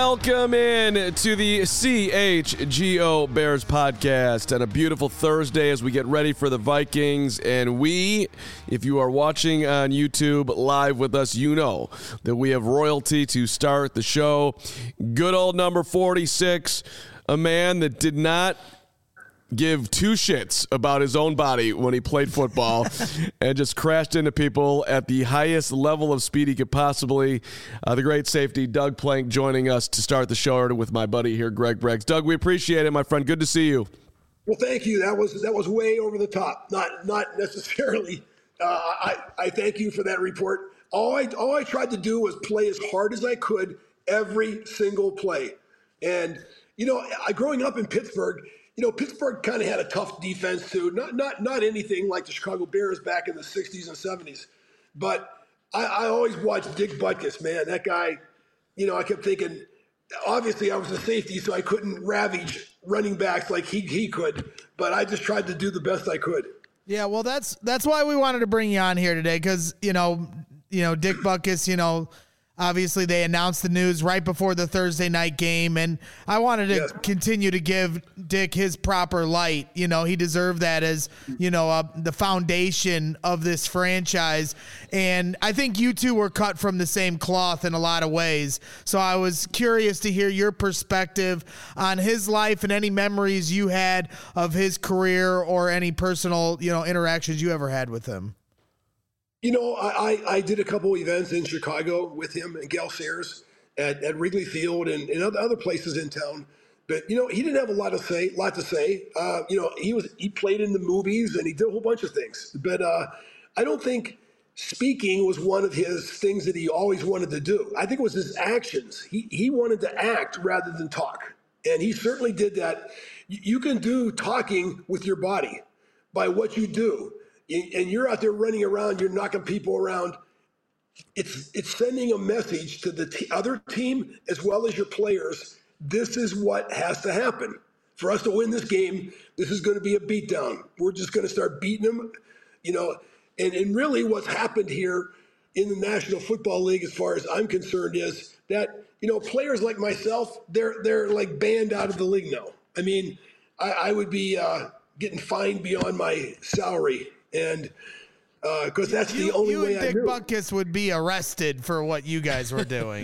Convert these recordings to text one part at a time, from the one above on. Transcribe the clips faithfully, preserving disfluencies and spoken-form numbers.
Welcome in to the C H G O Bears podcast on a beautiful Thursday as we get ready for the Vikings. And we, if you are watching on YouTube live with us, you know that we have royalty to start the show. Good old number forty-six, a man that did not give two shits about his own body when he played football and just crashed into people at the highest level of speed he could possibly. Uh, the great safety, Doug Plank, joining us to start the show with my buddy here, Greg Breggs. Doug, we appreciate it, my friend. Good to see you. Well, thank you. That was that was way over the top. Not not necessarily. Uh, I I thank you for that report. All I all I tried to do was play as hard as I could every single play. And you know, I growing up in Pittsburgh. You know, Pittsburgh kind of had a tough defense too. Not not not anything like the Chicago Bears back in the sixties and seventies. But I, I always watched Dick Butkus, man. That guy, you know, I kept thinking, obviously I was a safety, so I couldn't ravage running backs like he he could. But I just tried to do the best I could. Yeah, well, that's that's why we wanted to bring you on here today, because, you know, you know, Dick Butkus, you know, obviously, they announced the news right before the Thursday night game, and I wanted to yes. continue to give Dick his proper light. You know, he deserved that as, you know, uh, the foundation of this franchise. And I think you two were cut from the same cloth in a lot of ways. So I was curious to hear your perspective on his life and any memories you had of his career or any personal, you know, interactions you ever had with him. You know, I, I did a couple events in Chicago with him and Gale Sayers at, at Wrigley Field and, and other, other places in town. But, you know, he didn't have a lot to say, lot to say. Uh, you know, he was he played in the movies and he did a whole bunch of things. But uh, I don't think speaking was one of his things that he always wanted to do. I think it was his actions. He, he wanted to act rather than talk. And he certainly did that. You can do talking with your body by what you do. And you're out there running around, you're knocking people around. It's it's sending a message to the t- other team as well as your players. This is what has to happen. For us to win this game, this is going to be a beatdown. We're just going to start beating them, you know. And, and really what's happened here in the National Football League, as far as I'm concerned, is that, you know, players like myself, they're they're like banned out of the league now. I mean, I, I would be uh, getting fined beyond my salary. And because uh, that's you, the only you way and Dick I knew. Butkus would be arrested for what you guys were doing.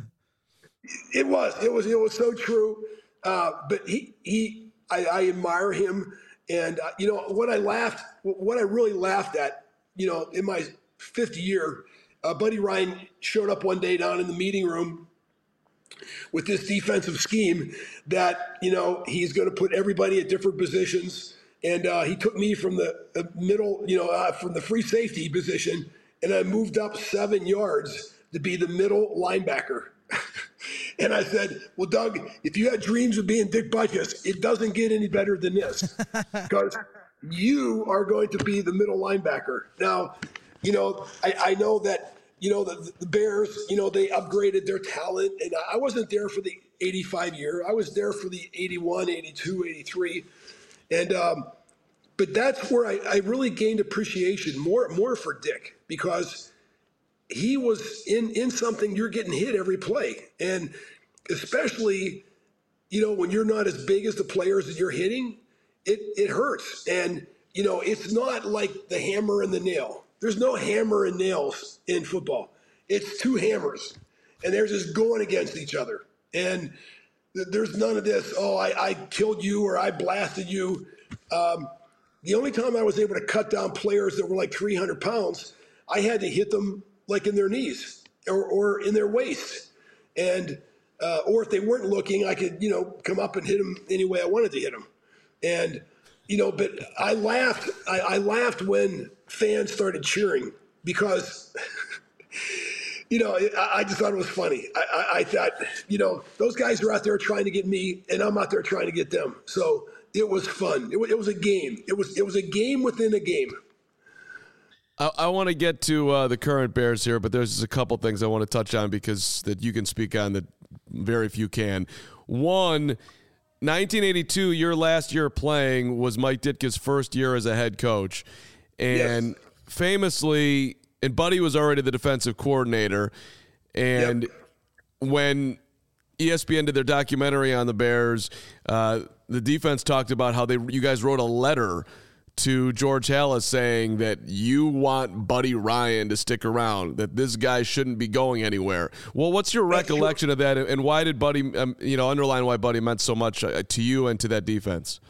It was, it was, it was so true. Uh, but he, he, I, I admire him, and uh, you know what I laughed, what I really laughed at, you know, in my fifth year, uh, Buddy Ryan showed up one day down in the meeting room with this defensive scheme that, you know, he's going to put everybody at different positions. And uh, he took me from the, the middle, you know, uh, from the free safety position, and I moved up seven yards to be the middle linebacker. And I said, well, Doug, if you had dreams of being Dick Butkus, it doesn't get any better than this, because you are going to be the middle linebacker. Now, you know, I, I know that, you know, the, the Bears, you know, they upgraded their talent, and I wasn't there for the eighty-five year. I was there for the eighty-one, eighty-two, eighty-three. And, um, but that's where I, I really gained appreciation more, more for Dick, because he was in, in something. You're getting hit every play. And especially, you know, when you're not as big as the players that you're hitting, it, it hurts. And, you know, it's not like the hammer and the nail. There's no hammer and nails in football. It's two hammers, and they're just going against each other. And there's none of this, oh, I, I killed you or I blasted you. Um, the only time I was able to cut down players that were like three hundred pounds, I had to hit them like in their knees or, or in their waist. And uh, or if they weren't looking, I could, you know, come up and hit them any way I wanted to hit them. And, you know, but I laughed. I, I laughed when fans started cheering, because you know, I, I just thought it was funny. I, I, I thought, you know, those guys are out there trying to get me, and I'm out there trying to get them. So it was fun. It was, it was a game. It was it was a game within a game. I, I want to get to uh, the current Bears here, but there's just a couple things I want to touch on, because that you can speak on that very few can. One, nineteen eighty-two, your last year playing, was Mike Ditka's first year as a head coach. And yes. famously, and Buddy was already the defensive coordinator, and yep. when E S P N did their documentary on the Bears, uh, the defense talked about how they you guys wrote a letter to George Halas saying that you want Buddy Ryan to stick around, that this guy shouldn't be going anywhere. Well, what's your That's recollection true. of that, and why did Buddy, um, you know, underline why Buddy meant so much uh, to you and to that defense?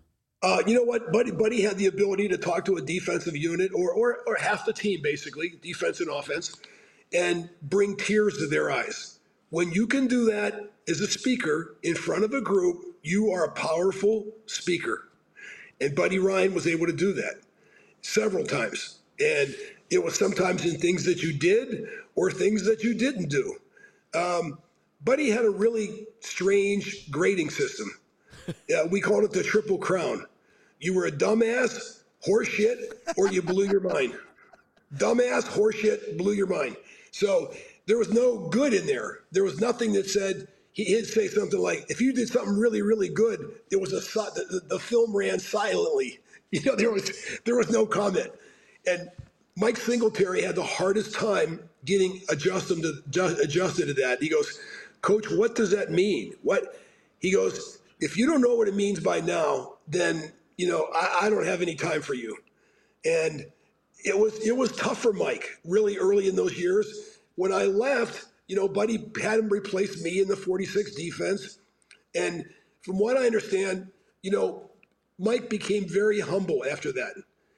Uh, you know what? Buddy Buddy had the ability to talk to a defensive unit or, or, or half the team, basically, defense and offense, and bring tears to their eyes. When you can do that as a speaker in front of a group, you are a powerful speaker. And Buddy Ryan was able to do that several times. And it was sometimes in things that you did or things that you didn't do. Um, Buddy had a really strange grading system. Uh, we called it the Triple Crown. You were a dumbass, horseshit, or you blew your mind. Dumbass, horseshit, blew your mind. So there was no good in there. There was nothing that said, he'd say something like, if you did something really, really good, it was a the, the film ran silently. You know, there was there was no comment. And Mike Singletary had the hardest time getting adjusted to just, adjusted to that. He goes, Coach, what does that mean? What? He goes, if you don't know what it means by now, then you know I, I don't have any time for you. And it was it was tough for Mike really early in those years. When I left, you know, Buddy had him replace me in the forty-six defense. And from what I understand, you know, Mike became very humble after that.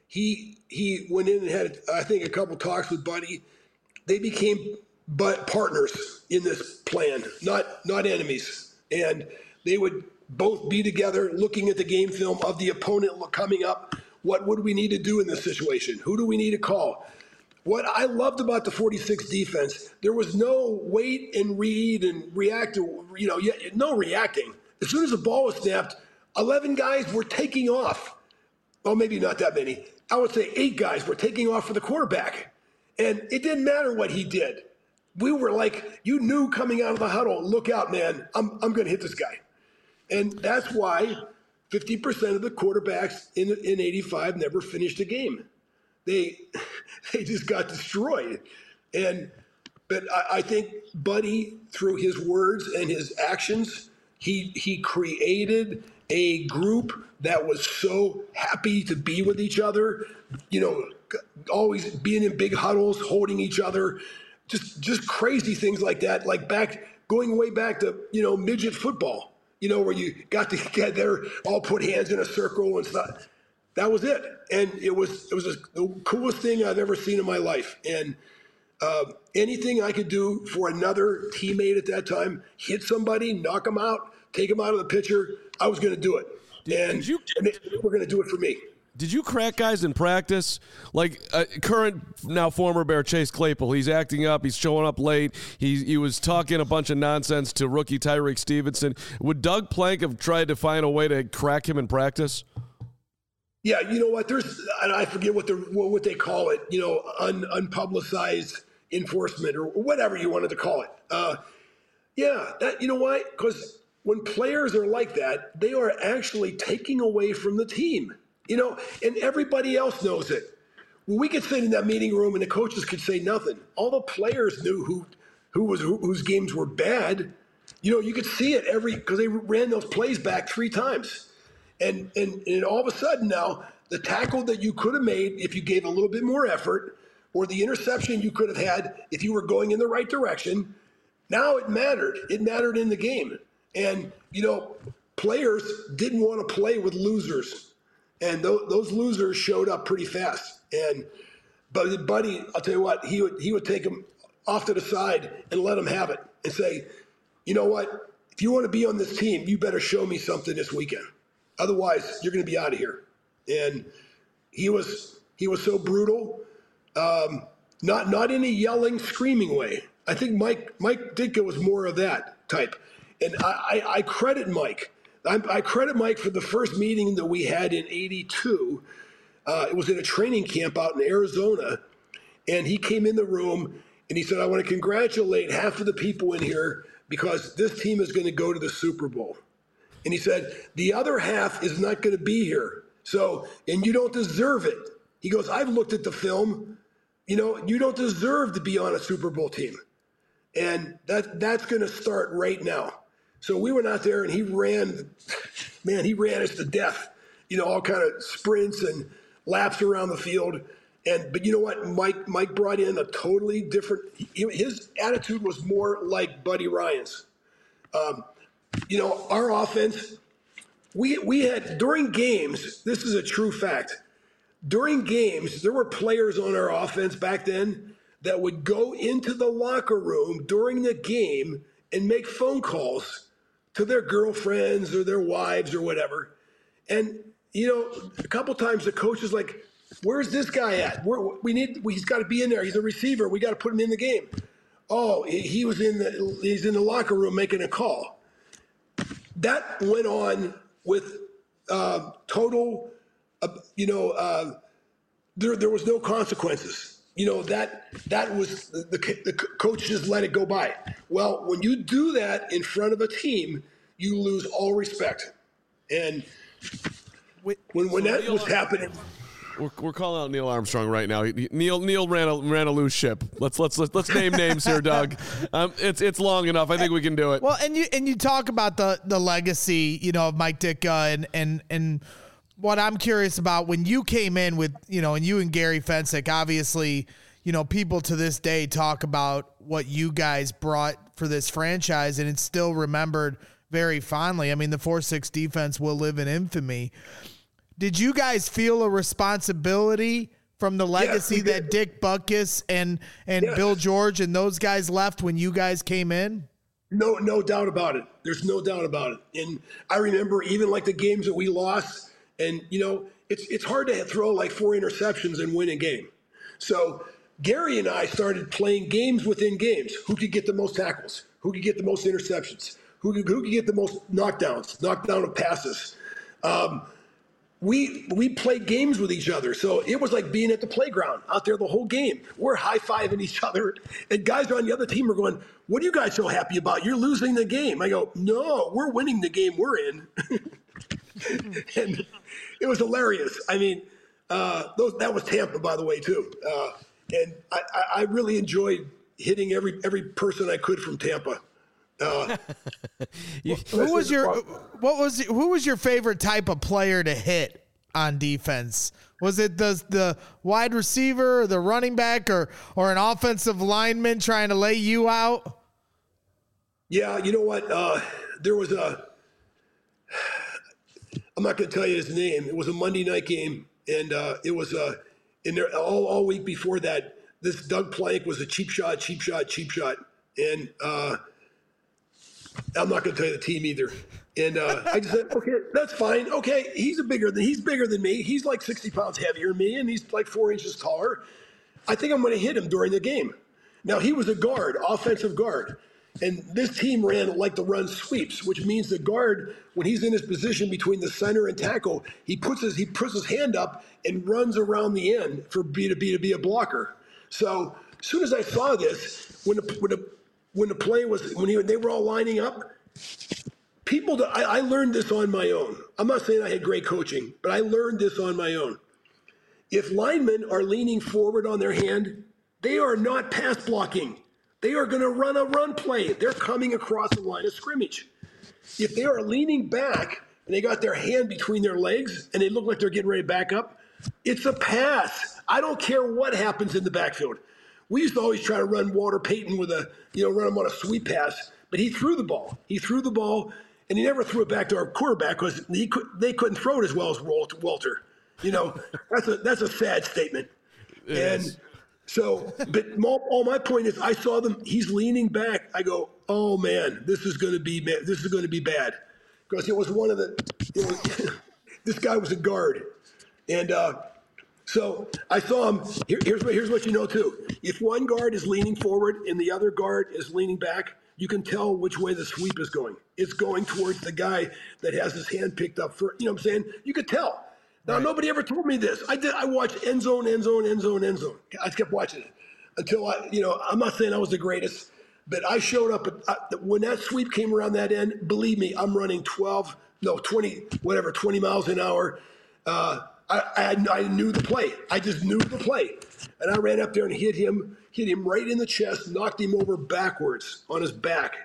He he went in and had, I think, a couple talks with Buddy. They became but partners in this plan, not not enemies. And they would both be together looking at the game film of the opponent coming up. What would we need to do in this situation? Who do we need to call? What I loved about the forty-six defense, there was no wait and read and react, to, you know, no reacting. As soon as the ball was snapped, eleven guys were taking off. Well, maybe not that many. I would say eight guys were taking off for the quarterback. And it didn't matter what he did. We were like, you knew coming out of the huddle, look out, man, I'm, I'm going to hit this guy. And that's why fifty percent of the quarterbacks in, in eighty-five never finished a game. They they just got destroyed. And but I, I think Buddy, through his words and his actions, he he created a group that was so happy to be with each other, you know, always being in big huddles, holding each other, just just crazy things like that, like back going way back to, you know, midget football, you know, where you got together, all put hands in a circle and stuff. That was it. And it was it was the coolest thing I've ever seen in my life. And uh, anything I could do for another teammate at that time, hit somebody, knock them out, take them out of the picture, I was going to do it. Did, and, did you, and they were going to do it for me. Did you crack guys in practice? Like uh, current, now former Bear Chase Claypool, he's acting up, he's showing up late, he, he was talking a bunch of nonsense to rookie Tyreek Stevenson. Would Doug Plank have tried to find a way to crack him in practice? Yeah, you know what? There's, and I forget what the what they call it. You know, un, unpublicized enforcement or whatever you wanted to call it. Uh, yeah, that you know why? Because when players are like that, they are actually taking away from the team. You know, and everybody else knows it. Well, we could sit in that meeting room and the coaches could say nothing. All the players knew who who was who, whose games were bad. You know, you could see it every because they ran those plays back three times. And, and and all of a sudden now, the tackle that you could have made if you gave a little bit more effort, or the interception you could have had if you were going in the right direction, now it mattered. It mattered in the game. And, you know, players didn't want to play with losers. And th- those losers showed up pretty fast. And but Buddy, I'll tell you what, he would he would take them off to the side and let them have it and say, you know what, if you want to be on this team, you better show me something this weekend. Otherwise, you're going to be out of here. And he was he was so brutal, um, not not in a yelling, screaming way. I think Mike Mike Ditka was more of that type. And I, I, I credit Mike. I, I credit Mike for the first meeting that we had in eighty-two. Uh, it was in a training camp out in Arizona. And he came in the room and he said, I want to congratulate half of the people in here because this team is going to go to the Super Bowl. And he said, the other half is not going to be here. So, and you don't deserve it. He goes, I've looked at the film. You know, you don't deserve to be on a Super Bowl team. And that that's going to start right now. So we went out there and he ran, man, he ran us to death. You know, all kind of sprints and laps around the field. And but you know what? Mike Mike brought in a totally different. He, his attitude was more like Buddy Ryan's. Um, you know, our offense. We we had during games. This is a true fact. During games, there were players on our offense back then that would go into the locker room during the game and make phone calls to their girlfriends or their wives or whatever. And you know, a couple times the coach is like, "Where's this guy at? We're, we need. He's got to be in there. He's a receiver. We got to put him in the game." Oh, he was in the. He's in the locker room making a call. That went on with uh, total. Uh, you know, uh, there there was no consequences. You know that that was the, the the coach just let it go by. Well, when you do that in front of a team, you lose all respect. And when when that was happening. We're, we're calling out Neil Armstrong right now. He, Neil Neil ran a ran a loose ship. Let's let's let's, let's name names here, Doug. Um, it's it's long enough. I think we can do it. Well, and you and you talk about the the legacy, you know, of Mike Ditka, and and and what I'm curious about when you came in with, you know, and you and Gary Fensick, obviously, you know, people to this day talk about what you guys brought for this franchise, and it's still remembered very fondly. I mean, the four six defense will live in infamy. Did you guys feel a responsibility from the legacy yes, that Dick Butkus and and yes. Bill George and those guys left when you guys came in? No, no doubt about it. There's no doubt about it. And I remember even like the games that we lost, and you know, it's it's hard to throw like four interceptions and win a game. So Gary and I started playing games within games. Who could get the most tackles? Who could get the most interceptions? Who could, who could get the most knockdowns, knockdown of passes? Um, We we played games with each other, so it was like being at the playground out there the whole game. We're high-fiving each other, and guys on the other team are going, "What are you guys so happy about? You're losing the game." I go, "No, we're winning the game we're in." And it was hilarious. I mean, uh, those, that was Tampa, by the way, too. Uh, and I, I really enjoyed hitting every every person I could from Tampa. Uh, you, who was your what was who was your favorite type of player to hit on defense? Was it the the wide receiver, or the running back, or or an offensive lineman trying to lay you out? Yeah, you know what? Uh, there was a. I'm not going to tell you his name. It was a Monday night game, and uh, it was uh, in there all all week before that. This Doug Plank was a cheap shot, cheap shot, cheap shot, and. Uh, I'm not going to tell you the team either. And uh, I just said, okay, that's fine. Okay, he's a bigger than he's bigger than me. He's like sixty pounds heavier than me, and he's like four inches taller. I think I'm going to hit him during the game. Now he was a guard, offensive guard, and this team ran like the run sweeps, which means the guard, when he's in his position between the center and tackle, he puts his he puts his hand up and runs around the end for B to B to be a blocker. So as soon as I saw this, when the when the When the play was, when he, they were all lining up, people, I, I learned this on my own. I'm not saying I had great coaching, but I learned this on my own. If linemen are leaning forward on their hand, they are not pass blocking. They are going to run a run play. They're coming across the line of scrimmage. If they are leaning back and they got their hand between their legs and they look like they're getting ready to back up, it's a pass. I don't care what happens in the backfield. We used to always try to run Walter Payton with a, you know, run him on a sweep pass, but he threw the ball. He threw the ball, and he never threw it back to our quarterback because he could, they couldn't throw it as well as Walter. You know, that's a that's a sad statement. It and is. So, but all my point is, I saw them. He's leaning back. I go, oh man, this is going to be this is going to be bad, because it was one of the. It was, this guy was a guard, and. uh So I saw him. Here, here's what here's what you know too. If one guard is leaning forward and the other guard is leaning back, you can tell which way the sweep is going. It's going towards the guy that has his hand picked up for. You know what I'm saying? You could tell. Now right. Nobody ever told me this. I did. I watched end zone, end zone, end zone, end zone. I kept watching it until I. You know, I'm not saying I was the greatest, but I showed up at, uh, when that sweep came around that end. Believe me, I'm running twelve, no twenty, whatever, twenty miles an hour. Uh, I, I, I knew the play. I just knew the play. And I ran up there and hit him, hit him right in the chest, knocked him over backwards on his back.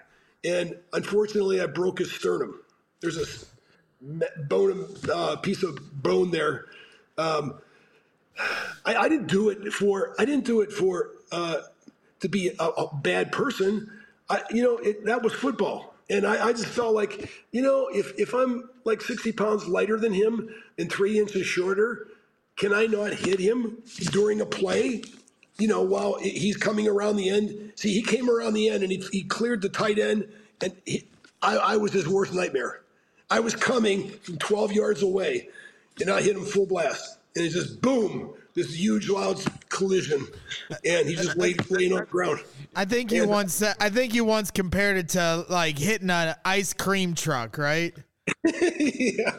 and unfortunately, I broke his sternum. There's a bone, uh, piece of bone there. Um, I, I didn't do it for. I didn't do it for uh, to be a, a bad person. I, you know, it, that was football, and I, I just felt like, you know, if if I'm like sixty pounds lighter than him and three inches shorter, can I not hit him during a play? You know, while he's coming around the end. See, he came around the end and he, he cleared the tight end, and he, I, I was his worst nightmare. I was coming from twelve yards away, and I hit him full blast, and it's just boom, this huge loud collision, and he just laid laying on the ground. I think you and, once. I think you once compared it to like hitting an ice cream truck, right? yeah.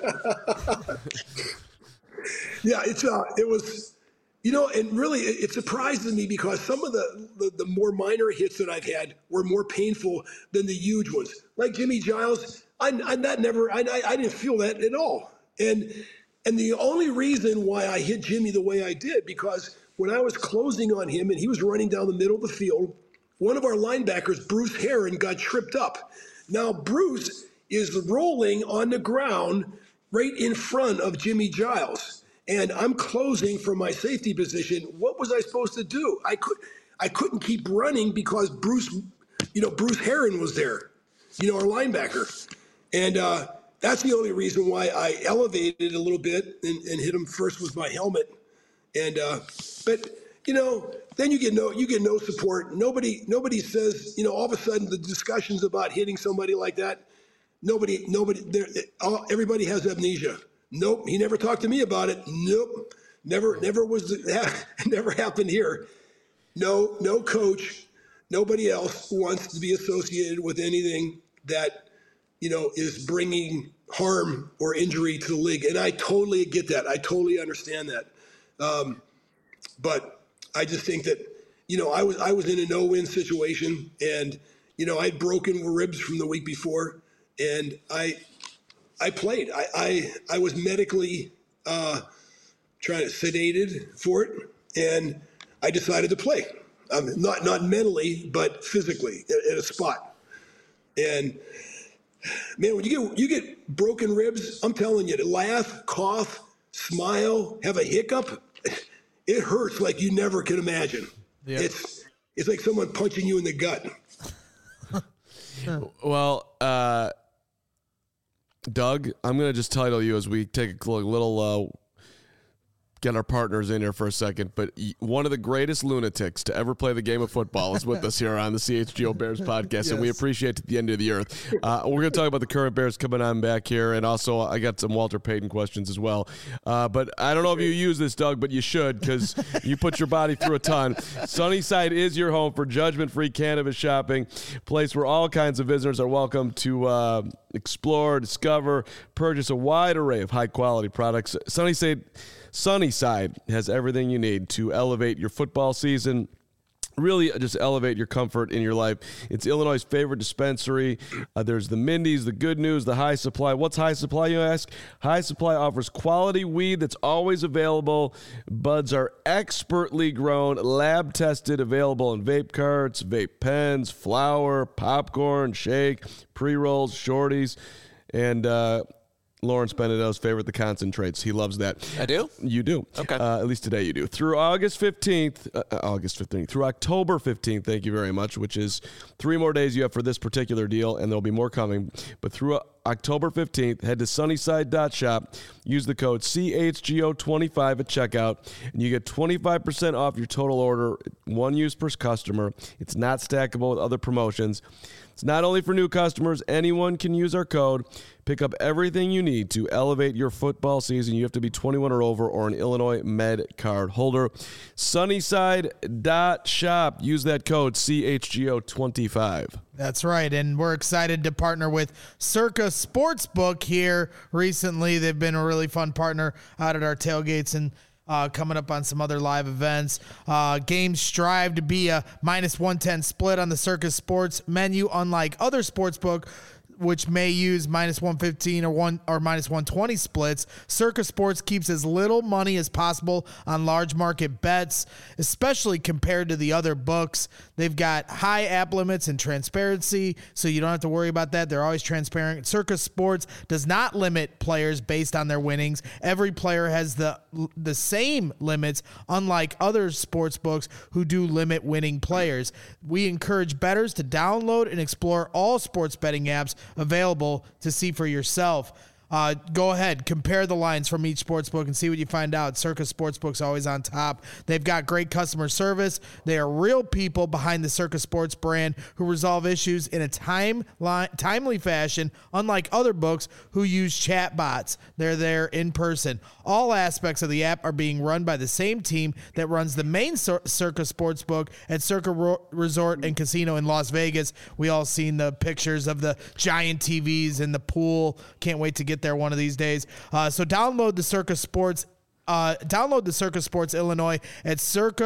yeah, it's uh, it was. You know, and really, it surprises me because some of the, the, the more minor hits that I've had were more painful than the huge ones. Like Jimmy Giles, I, I that never, I, I didn't feel that at all. And and the only reason why I hit Jimmy the way I did, because when I was closing on him and he was running down the middle of the field, one of our linebackers, Bruce Herron, got tripped up. Now, Bruce is rolling on the ground right in front of Jimmy Giles. And I'm closing from my safety position. What was I supposed to do? I could, I couldn't keep running because Bruce, you know, Bruce Herron was there, you know, our linebacker. And uh, that's the only reason why I elevated a little bit and, and hit him first with my helmet. And uh, but you know, then you get no, you get no support. Nobody, nobody says, you know, all of a sudden the discussions about hitting somebody like that. Nobody, nobody, there, everybody has amnesia. Nope, he never talked to me about it. Nope, never, never was, never happened here. No, no coach, nobody else wants to be associated with anything that, you know, is bringing harm or injury to the league. And I totally get that. I totally understand that. Um, but I just think that, you know, I was, I was in a no-win situation, and, you know, I'd broken ribs from the week before, and I, I played. I, I I was medically uh, trying to sedated for it, and I decided to play. Um, not not mentally, but physically at, at a spot. And man, when you get you get broken ribs, I'm telling you, to laugh, cough, smile, have a hiccup, it hurts like you never can imagine. Yep. It's it's like someone punching you in the gut. Well. Uh... Doug, I'm going to just title you as we take a little, uh, get our partners in here for a second, but one of the greatest lunatics to ever play the game of football is with us here on the C H G O Bears podcast, yes. And we appreciate it at the end of the earth. Uh, we're going to talk about the current Bears coming on back here, and also I got some Walter Payton questions as well. Uh, but I don't know if you use this, Doug, but you should, because you put your body through a ton. Sunnyside is your home for judgment-free cannabis shopping, place where all kinds of visitors are welcome to uh, explore, discover, purchase a wide array of high-quality products. Sunnyside Sunnyside has everything you need to elevate your football season, really just elevate your comfort in your life. It's Illinois' favorite dispensary. Uh, there's the Mindy's, the Good News, the High Supply. What's High Supply, you ask? High Supply offers quality weed that's always available. Buds are expertly grown, lab-tested, available in vape carts, vape pens, flour, popcorn, shake, pre-rolls, shorties, and uh Lawrence Benedetto's favorite, the concentrates. He loves that. I do? You do. Okay. Uh, at least today you do. Through August fifteenth, uh, August fifteenth, through October fifteenth, thank you very much, which is three more days you have for this particular deal, and there'll be more coming. But through uh, October fifteenth, head to sunnyside dot shop, use the code C H G O twenty-five at checkout, and you get twenty-five percent off your total order, one use per customer. It's not stackable with other promotions. It's not only for new customers. Anyone can use our code. Pick up everything you need to elevate your football season. You have to be twenty-one or over or an Illinois Med card holder. Sunnyside dot shop. Use that code C H G O twenty-five. That's right, and we're excited to partner with Circa Sportsbook here recently. They've been a really fun partner out at our tailgates and Uh, coming up on some other live events. Uh, games strive to be a minus one ten split on the Circus Sports menu. Unlike other sportsbook which may use minus one fifteen or one or minus one twenty splits, Circa Sports keeps as little money as possible on large market bets, especially compared to the other books. They've got high app limits and transparency, so you don't have to worry about that. They're always transparent. Circa Sports does not limit players based on their winnings. Every player has the the same limits, unlike other sports books who do limit winning players. We encourage bettors to download and explore all sports betting apps available to see for yourself. Uh, go ahead, compare the lines from each sportsbook and see what you find out. Circa Sportsbook's always on top. They've got great customer service. They are real people behind the Circa Sports brand who resolve issues in a time line, timely fashion, unlike other books who use chat bots. They're there in person. All aspects of the app are being run by the same team that runs the main Cir- Circa Sportsbook at Circa Ro- Resort and Casino in Las Vegas. We all seen the pictures of the giant T Vs in the pool. Can't wait to get there one of these days. Uh, so download the Circa Sports Uh, download the Circa Sports Illinois at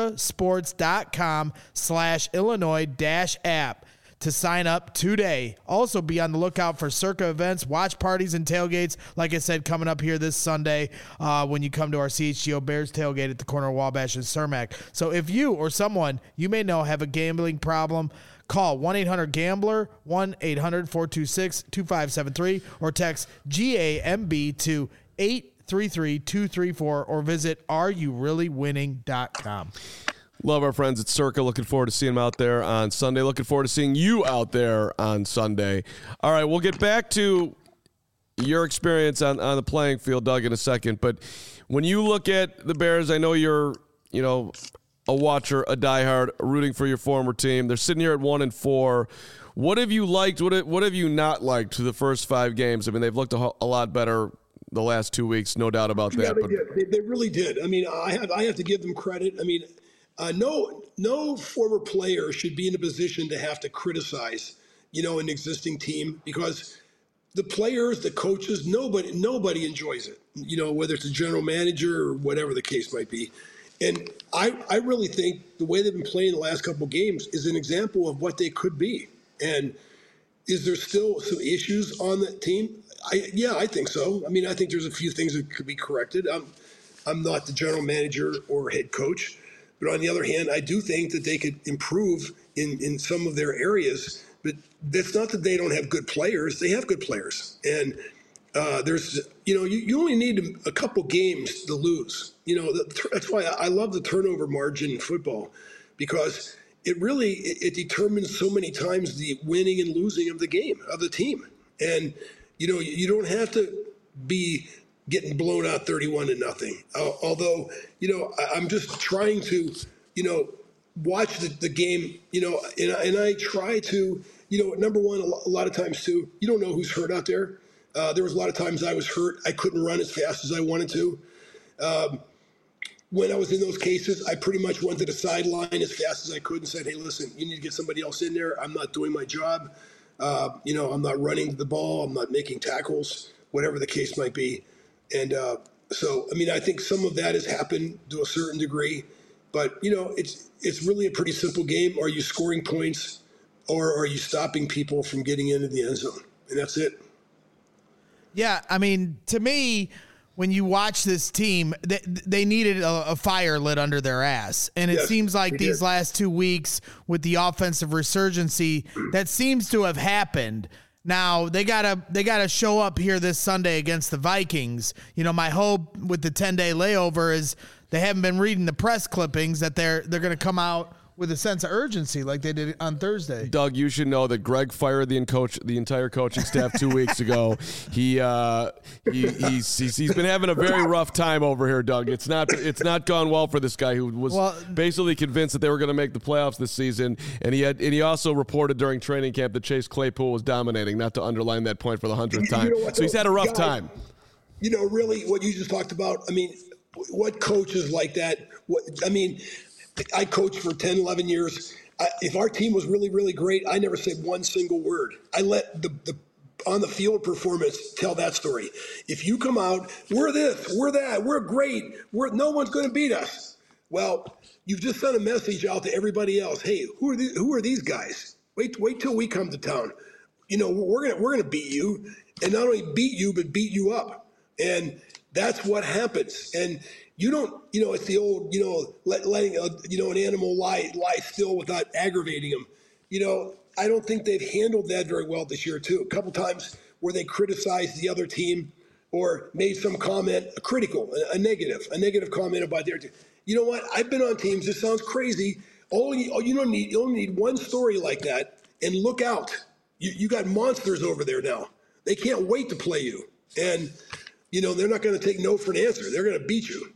circasports.com slash Illinois dash app to sign up today. Also be on the lookout for Circa events, watch parties, and tailgates. Like I said, coming up here this Sunday uh, when you come to our C H G O Bears tailgate at the corner of Wabash and Cermak. So if you or someone you may know have a gambling problem, call one eight hundred gambler, one eight hundred four two six two five seven three, or text G A M B to eight three three two three four, or visit are you really winning dot com. Love our friends at Circa. Looking forward to seeing them out there on Sunday. Looking forward to seeing you out there on Sunday. All right, we'll get back to your experience on, on the playing field, Doug, in a second. But when you look at the Bears, I know you're, you know, a watcher, a diehard, rooting for your former team. They're sitting here at one and four. What have you liked? What have, what have you not liked to the first five games? I mean, they've looked a, a lot better the last two weeks, no doubt about that. Yeah, they but did. They, they really did. I mean, I have I have to give them credit. I mean, uh, no no former player should be in a position to have to criticize, you know, an existing team, because the players, the coaches, nobody nobody enjoys it. You know, whether it's a general manager or whatever the case might be. And I I really think the way they've been playing the last couple of games is an example of what they could be. And is there still some issues on that team? I, yeah, I think so. I mean, I think there's a few things that could be corrected. I'm, I'm not the general manager or head coach, but on the other hand, I do think that they could improve in, in some of their areas. But that's not that they don't have good players. They have good players. And uh, there's, you know, you, you only need a couple games to lose. You know, that's why I love the turnover margin in football, because it really, it, it determines so many times the winning and losing of the game, of the team. And you know, you don't have to be getting blown out thirty-one to nothing. Uh, although, you know, I, I'm just trying to, you know, watch the, the game, you know, and, and I try to, you know, number one, a lot of times too, you don't know who's hurt out there. Uh, there was a lot of times I was hurt. I couldn't run as fast as I wanted to. Um, when I was in those cases, I pretty much went to the sideline as fast as I could and said, hey, listen, you need to get somebody else in there. I'm not doing my job. Uh, you know, I'm not running the ball. I'm not making tackles, whatever the case might be. And uh, so, I mean, I think some of that has happened to a certain degree. But, you know, it's it's really a pretty simple game. Are you scoring points, or are you stopping people from getting into the end zone? And that's it. Yeah, I mean, to me, when you watch this team, they, they needed a, a fire lit under their ass. And it yes, seems like these did. last two weeks with the offensive resurgency, that seems to have happened. Now they gotta they gotta show up here this Sunday against the Vikings. You know, my hope with the ten day layover is they haven't been reading the press clippings that they're they're gonna come out with a sense of urgency like they did on Thursday. Doug, you should know that Greg fired the coach, the entire coaching staff two weeks ago. He, uh, he he's, he's he's been having a very rough time over here, Doug. It's not it's not gone well for this guy who was well, basically convinced that they were going to make the playoffs this season, and he had and he also reported during training camp that Chase Claypool was dominating. Not to underline that point for the hundredth time. You know what, so he's had a rough guys, time. You know, really, what you just talked about. I mean, what coaches like that? What I mean. I coached for ten, eleven years. I, if our team was really, really great, I never said one single word. I let the, the on the field performance tell that story. If you come out, we're this, we're that, we're great, we're no one's going to beat us. Well, you've just sent a message out to everybody else. Hey, who are these, who are these guys? Wait, wait till we come to town. you know, we're gonna we're gonna beat you, and not only beat you, but beat you up, and that's what happens. And you don't, you know, it's the old, you know, let, letting a, you know, an animal lie lie still without aggravating him. You know, I don't think they've handled that very well this year too. A couple times where they criticized the other team or made some comment, a critical, a, a negative, a negative comment about their team. You know what? I've been on teams. This sounds crazy. Only you don't need you only need one story like that, and look out. You you got monsters over there now. They can't wait to play you, and you know they're not going to take no for an answer. They're going to beat you.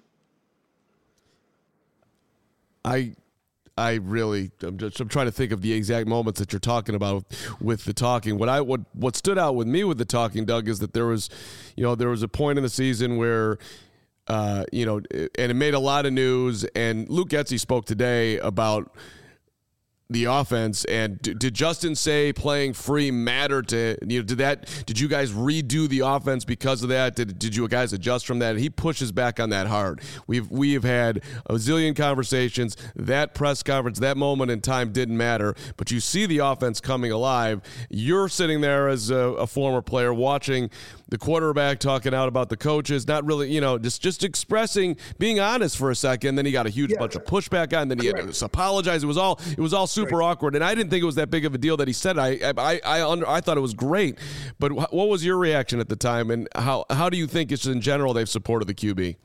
I. I really, I'm just, I'm trying to think of the exact moments that you're talking about with the talking. What I, what, what stood out with me with the talking, Doug, is that there was, you know, there was a point in the season where, uh, you know, and it made a lot of news. And Luke Getsy spoke today about the offense, and did Justin say playing free matter to, you know, did that, did you guys redo the offense because of that? Did, did you guys adjust from that? He pushes back on that hard. We've, we have had a zillion conversations. That press conference, that moment in time didn't matter, but you see the offense coming alive. You're sitting there as a, a former player watching the quarterback talking out about the coaches, not really, you know, just, just expressing, being honest for a second. Then he got a huge yeah. bunch of pushback on, then he Correct. had to apologize. It was all, it was all super right. awkward. And I didn't think it was that big of a deal that he said. I, I, I, under, I thought it was great, but wh- what was your reaction at the time? And how, how do you think it's in general they've supported the Q B?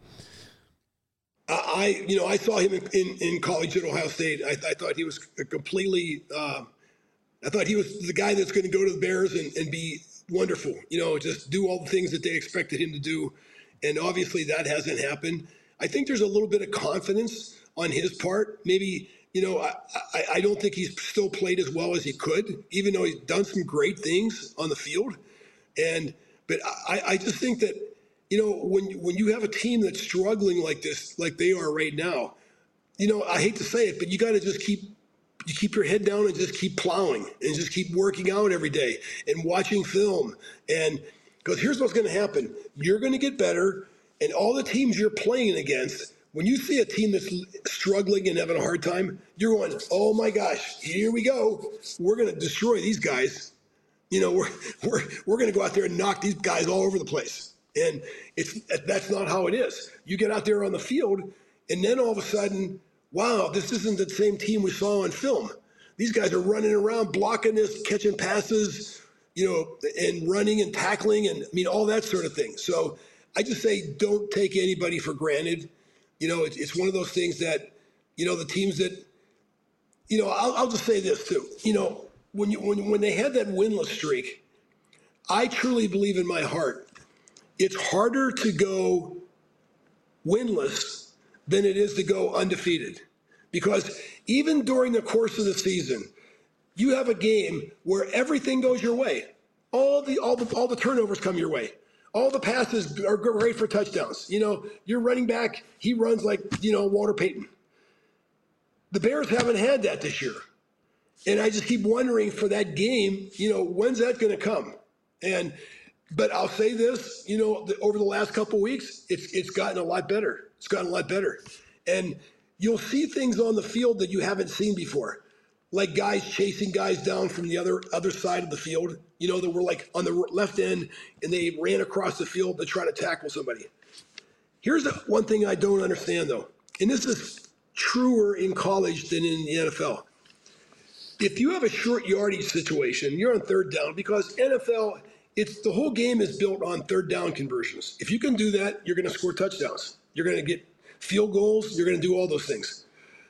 I, you know, I saw him in, in, in college at Ohio State. I, I thought he was completely, uh, I thought he was the guy that's going to go to the Bears and, and be wonderful, you know, just do all the things that they expected him to do. And obviously that hasn't happened. I think there's a little bit of confidence on his part. Maybe, you know, I, I, I don't think he's still played as well as he could, even though he's done some great things on the field. And, but I, I just think that, you know, when, when you have a team that's struggling like this, like they are right now, you know, I hate to say it, but you got to just keep You keep your head down and just keep plowing and just keep working out every day and watching film. And because here's what's going to happen. You're going to get better, and all the teams you're playing against, when you see a team that's struggling and having a hard time, you're going, oh my gosh, here we go. We're going to destroy these guys. You know, we're we're we're going to go out there and knock these guys all over the place. And it's that's not how it is. You get out there on the field, and then all of a sudden, wow, this isn't the same team we saw on film. These guys are running around, blocking this, catching passes, you know, and running and tackling and, I mean, all that sort of thing. So I just say don't take anybody for granted. You know, it, it's one of those things that, you know, the teams that, you know, I'll, I'll just say this too. You know, when you when when they had that winless streak, I truly believe in my heart, it's harder to go winless than it is to go undefeated. Because even during the course of the season, you have a game where everything goes your way. All the all the all the turnovers come your way. All the passes are great for touchdowns. You know, your running back, he runs like, you know, Walter Payton. The Bears haven't had that this year. And I just keep wondering for that game, you know, when's that going to come? And but I'll say this, you know, the, over the last couple of weeks, it's it's gotten a lot better. It's gotten a lot better. And you'll see things on the field that you haven't seen before, like guys chasing guys down from the other other side of the field, you know, that were like on the left end and they ran across the field to try to tackle somebody. Here's the one thing I don't understand, though, and this is truer in college than in the N F L. If you have a short yardage situation, you're on third down, because N F L, it's the whole game is built on third down conversions. If you can do that, you're going to score touchdowns. You're going to get field goals. You're going to do all those things.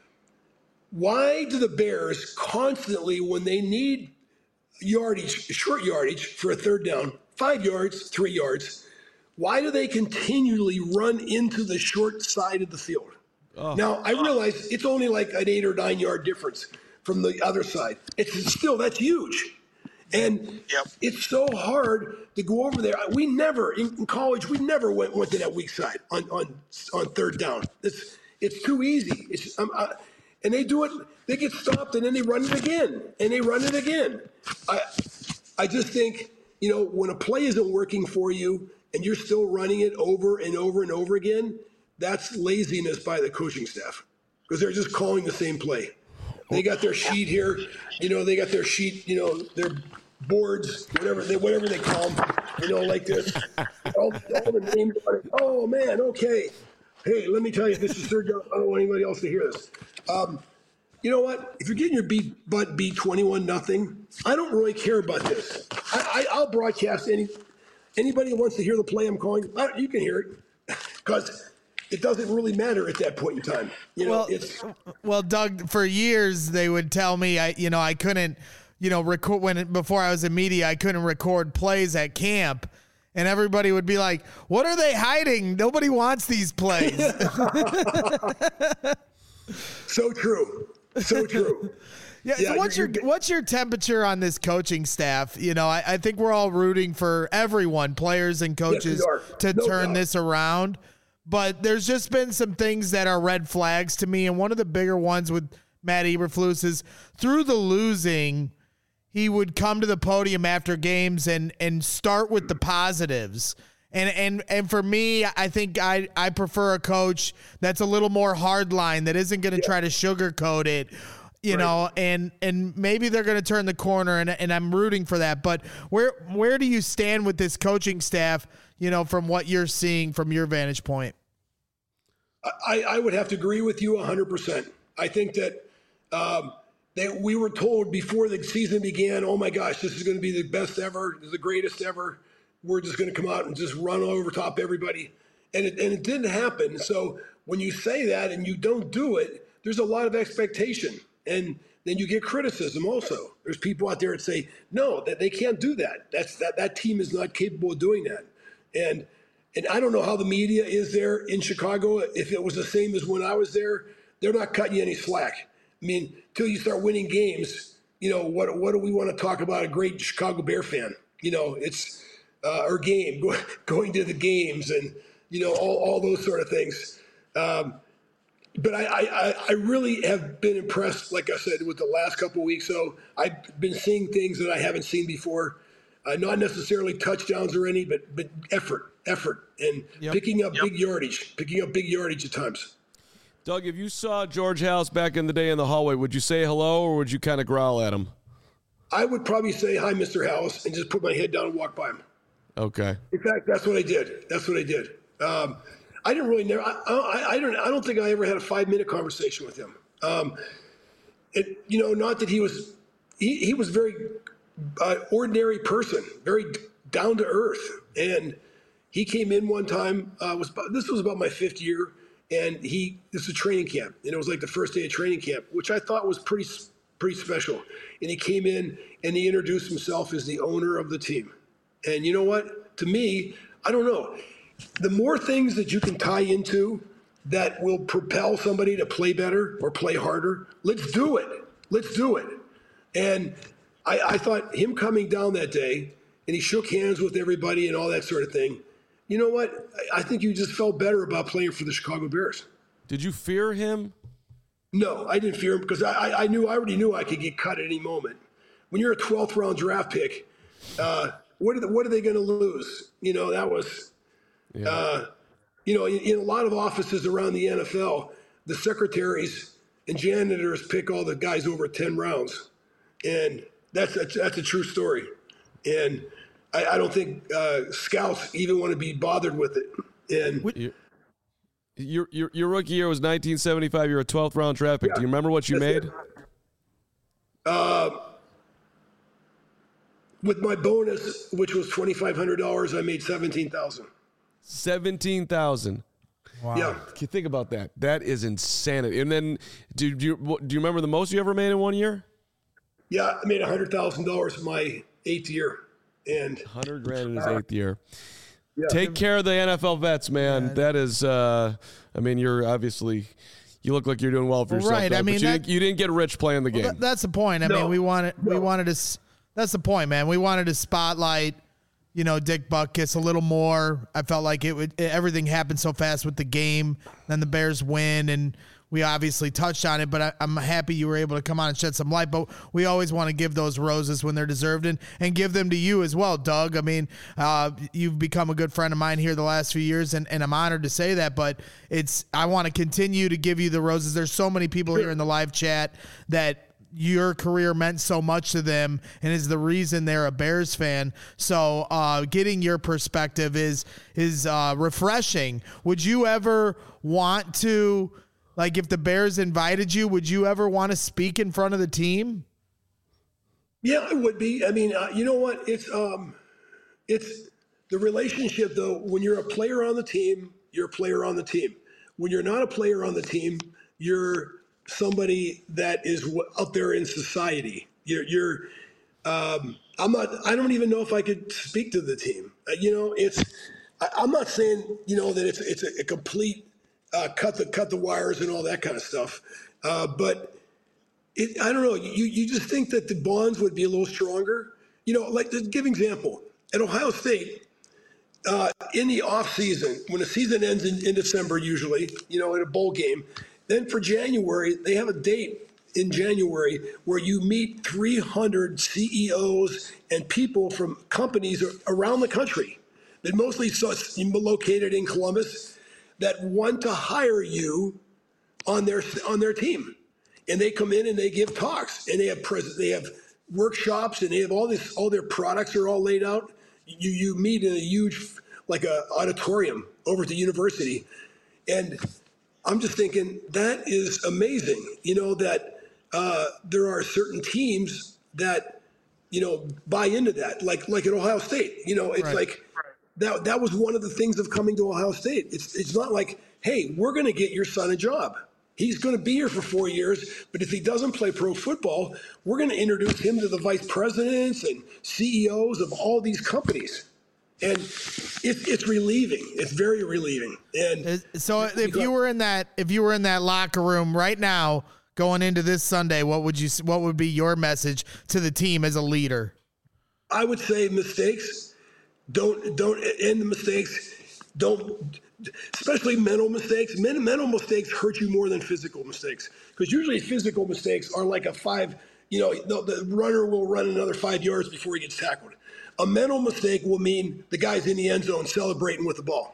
Why do the Bears constantly, when they need yardage, short yardage for a third down, five yards, three yards, why do they continually run into the short side of the field? Oh. Now, I realize it's only like an eight or nine yard difference from the other side. It's still, that's huge. And yep. It's so hard to go over there. We never, in, in college, we never went, went to that weak side on, on, on third down. It's it's too easy. It's, um, uh, and they do it, they get stopped and then they run it again. And they run it again. I, I just think, you know, when a play isn't working for you and you're still running it over and over and over again, that's laziness by the coaching staff, because they're just calling the same play. They got their sheet here, you know, they got their sheet, you know, their boards, whatever they whatever they call them, you know, like this. all, all the names on it. Oh man, okay. Hey, let me tell you, this is third down. I don't want anybody else to hear this. Um, you know what? If you're getting your beat butt beat twenty-one nothing, I don't really care about this. I, I, I'll broadcast any anybody who wants to hear the play I'm calling. You can hear it because it doesn't really matter at that point in time. You know, well, it's well, Doug. For years, they would tell me, I, you know, I couldn't, you know, record when before I was in media, I couldn't record plays at camp. And everybody would be like, what are they hiding? Nobody wants these plays. So true. So true. Yeah, yeah. So what's your what's your temperature on this coaching staff? You know, I, I think we're all rooting for everyone, players and coaches, yes, to no turn doubt. this around. But there's just been some things that are red flags to me. And one of the bigger ones with Matt Eberflus is through the losing, he would come to the podium after games and and start with the positives. And and and for me, I think I, I prefer a coach that's a little more hardline, that isn't going to yeah. try to sugarcoat it, you right. know, and and maybe they're going to turn the corner, and and I'm rooting for that. But where where do you stand with this coaching staff, you know, from what you're seeing from your vantage point? I, I would have to agree with you one hundred percent. I think that um, that we were told before the season began, oh my gosh, this is going to be the best ever, the greatest ever. We're just going to come out and just run over top everybody. And it, and it didn't happen. So when you say that and you don't do it, there's a lot of expectation. And then you get criticism also. There's people out there that say, no, that they can't do that. That's that that team is not capable of doing that. And and I don't know how the media is there in Chicago. If it was the same as when I was there, they're not cutting you any slack. I mean, till you start winning games, you know, what what do we want to talk about a great Chicago Bear fan? You know, it's uh, our game, go, going to the games and, you know, all, all those sort of things. Um, but I, I, I really have been impressed, like I said, with the last couple of weeks. So I've been seeing things that I haven't seen before. Uh, not necessarily touchdowns or any, but but effort, effort, and yep. picking up yep. big yardage, picking up big yardage at times. Doug, if you saw George House back in the day in the hallway, would you say hello or would you kind of growl at him? I would probably say, hi, Mister House, and just put my head down and walk by him. Okay. In fact, that's what I did. That's what I did. Um, I didn't really know. I, I, I don't. I don't think I ever had a five-minute conversation with him. Um, it, you know, not that he was. He, he was very uh, ordinary person, very down to earth, and he came in one time. Uh, was this was about my fifth year. And he, this was training camp, and it was like the first day of training camp, which I thought was pretty, pretty special. And he came in and he introduced himself as the owner of the team. And you know what? To me, I don't know. The more things that you can tie into that will propel somebody to play better or play harder, let's do it. Let's do it. And I, I thought him coming down that day, and he shook hands with everybody and all that sort of thing. You know what? I think you just felt better about playing for the Chicago Bears. Did you fear him? No, I didn't fear him because I, I knew I already knew I could get cut at any moment. When you're a twelfth round draft pick, uh, what are the, what are they going to lose? You know, that was, yeah. uh, you know, in, in a lot of offices around the N F L, the secretaries and janitors pick all the guys over ten rounds, and that's a, that's a true story. And I, I don't think uh, scouts even want to be bothered with it. And your your your rookie year was nineteen seventy-five. You're a twelfth round draft pick. Yeah, do you remember what you made? It. Uh, with my bonus, which was twenty-five hundred dollars, I made seventeen thousand dollars. seventeen thousand dollars. Wow. Yeah. Can you think about that? That is insanity. And then, do, do you do you remember the most you ever made in one year? Yeah, I made one hundred thousand dollars in my eighth year. And one hundred grand in his uh, eighth year. Yeah. Take care of the N F L vets, man. Yeah. That is, uh, I mean, you're obviously, you look like you're doing well for well, yourself. Right. Though, I mean, but you, that, didn't, you didn't get rich playing the game. Well, that, that's the point. I no. mean, we wanted, no. we wanted to, that's the point, man. We wanted to spotlight, you know, Dick Butkus a little more. I felt like it would, everything happened so fast with the game. Then the Bears win, and we obviously touched on it, but I, I'm happy you were able to come on and shed some light. But we always want to give those roses when they're deserved, and, and give them to you as well, Doug. I mean, uh, you've become a good friend of mine here the last few years, and, and I'm honored to say that. But it's I want to continue to give you the roses. There's so many people here in the live chat that your career meant so much to them and is the reason they're a Bears fan. So uh, getting your perspective is is uh, refreshing. Would you ever want to, like, if the Bears invited you, would you ever want to speak in front of the team? Yeah, it would be. I mean, uh, you know what? It's um, it's the relationship, though. When you're a player on the team, you're a player on the team. When you're not a player on the team, you're somebody that is w- out there in society. You're, you're um, I'm not, I don't even know if I could speak to the team. Uh, you know, it's, I, I'm not saying, you know, that it's, it's a, a complete uh, cut the, cut the wires and all that kind of stuff. Uh, but it, I don't know, you, you just think that the bonds would be a little stronger. You know, like, to give an example, at Ohio State, uh, in the off season, when the season ends in, in December, usually, you know, in a bowl game, then for January, they have a date in January where you meet three hundred C E Os and people from companies around the country that mostly located in Columbus that want to hire you on their on their team. And they come in and they give talks and they have pres- they have workshops and they have all this, all their products are all laid out. You you meet in a huge, like a auditorium over at the university. And I'm just thinking that is amazing, you know, that uh, there are certain teams that, you know, buy into that, like like at Ohio State. You know, it's Right. like that that was one of the things of coming to Ohio State. It's it's not like, hey, we're going to get your son a job. He's going to be here for four years, but if he doesn't play pro football, we're going to introduce him to the vice presidents and C E Os of all these companies. And it's it's relieving. It's very relieving. And So if you were in that, if you were in that locker room right now going into this Sunday, what would you, what would be your message to the team as a leader? I would say mistakes. Don't don't end the mistakes. Don't, especially mental mistakes. Men, mental mistakes hurt you more than physical mistakes, because usually physical mistakes are like a five. You know, the, the runner will run another five yards before he gets tackled. A mental mistake will mean the guy's in the end zone celebrating with the ball.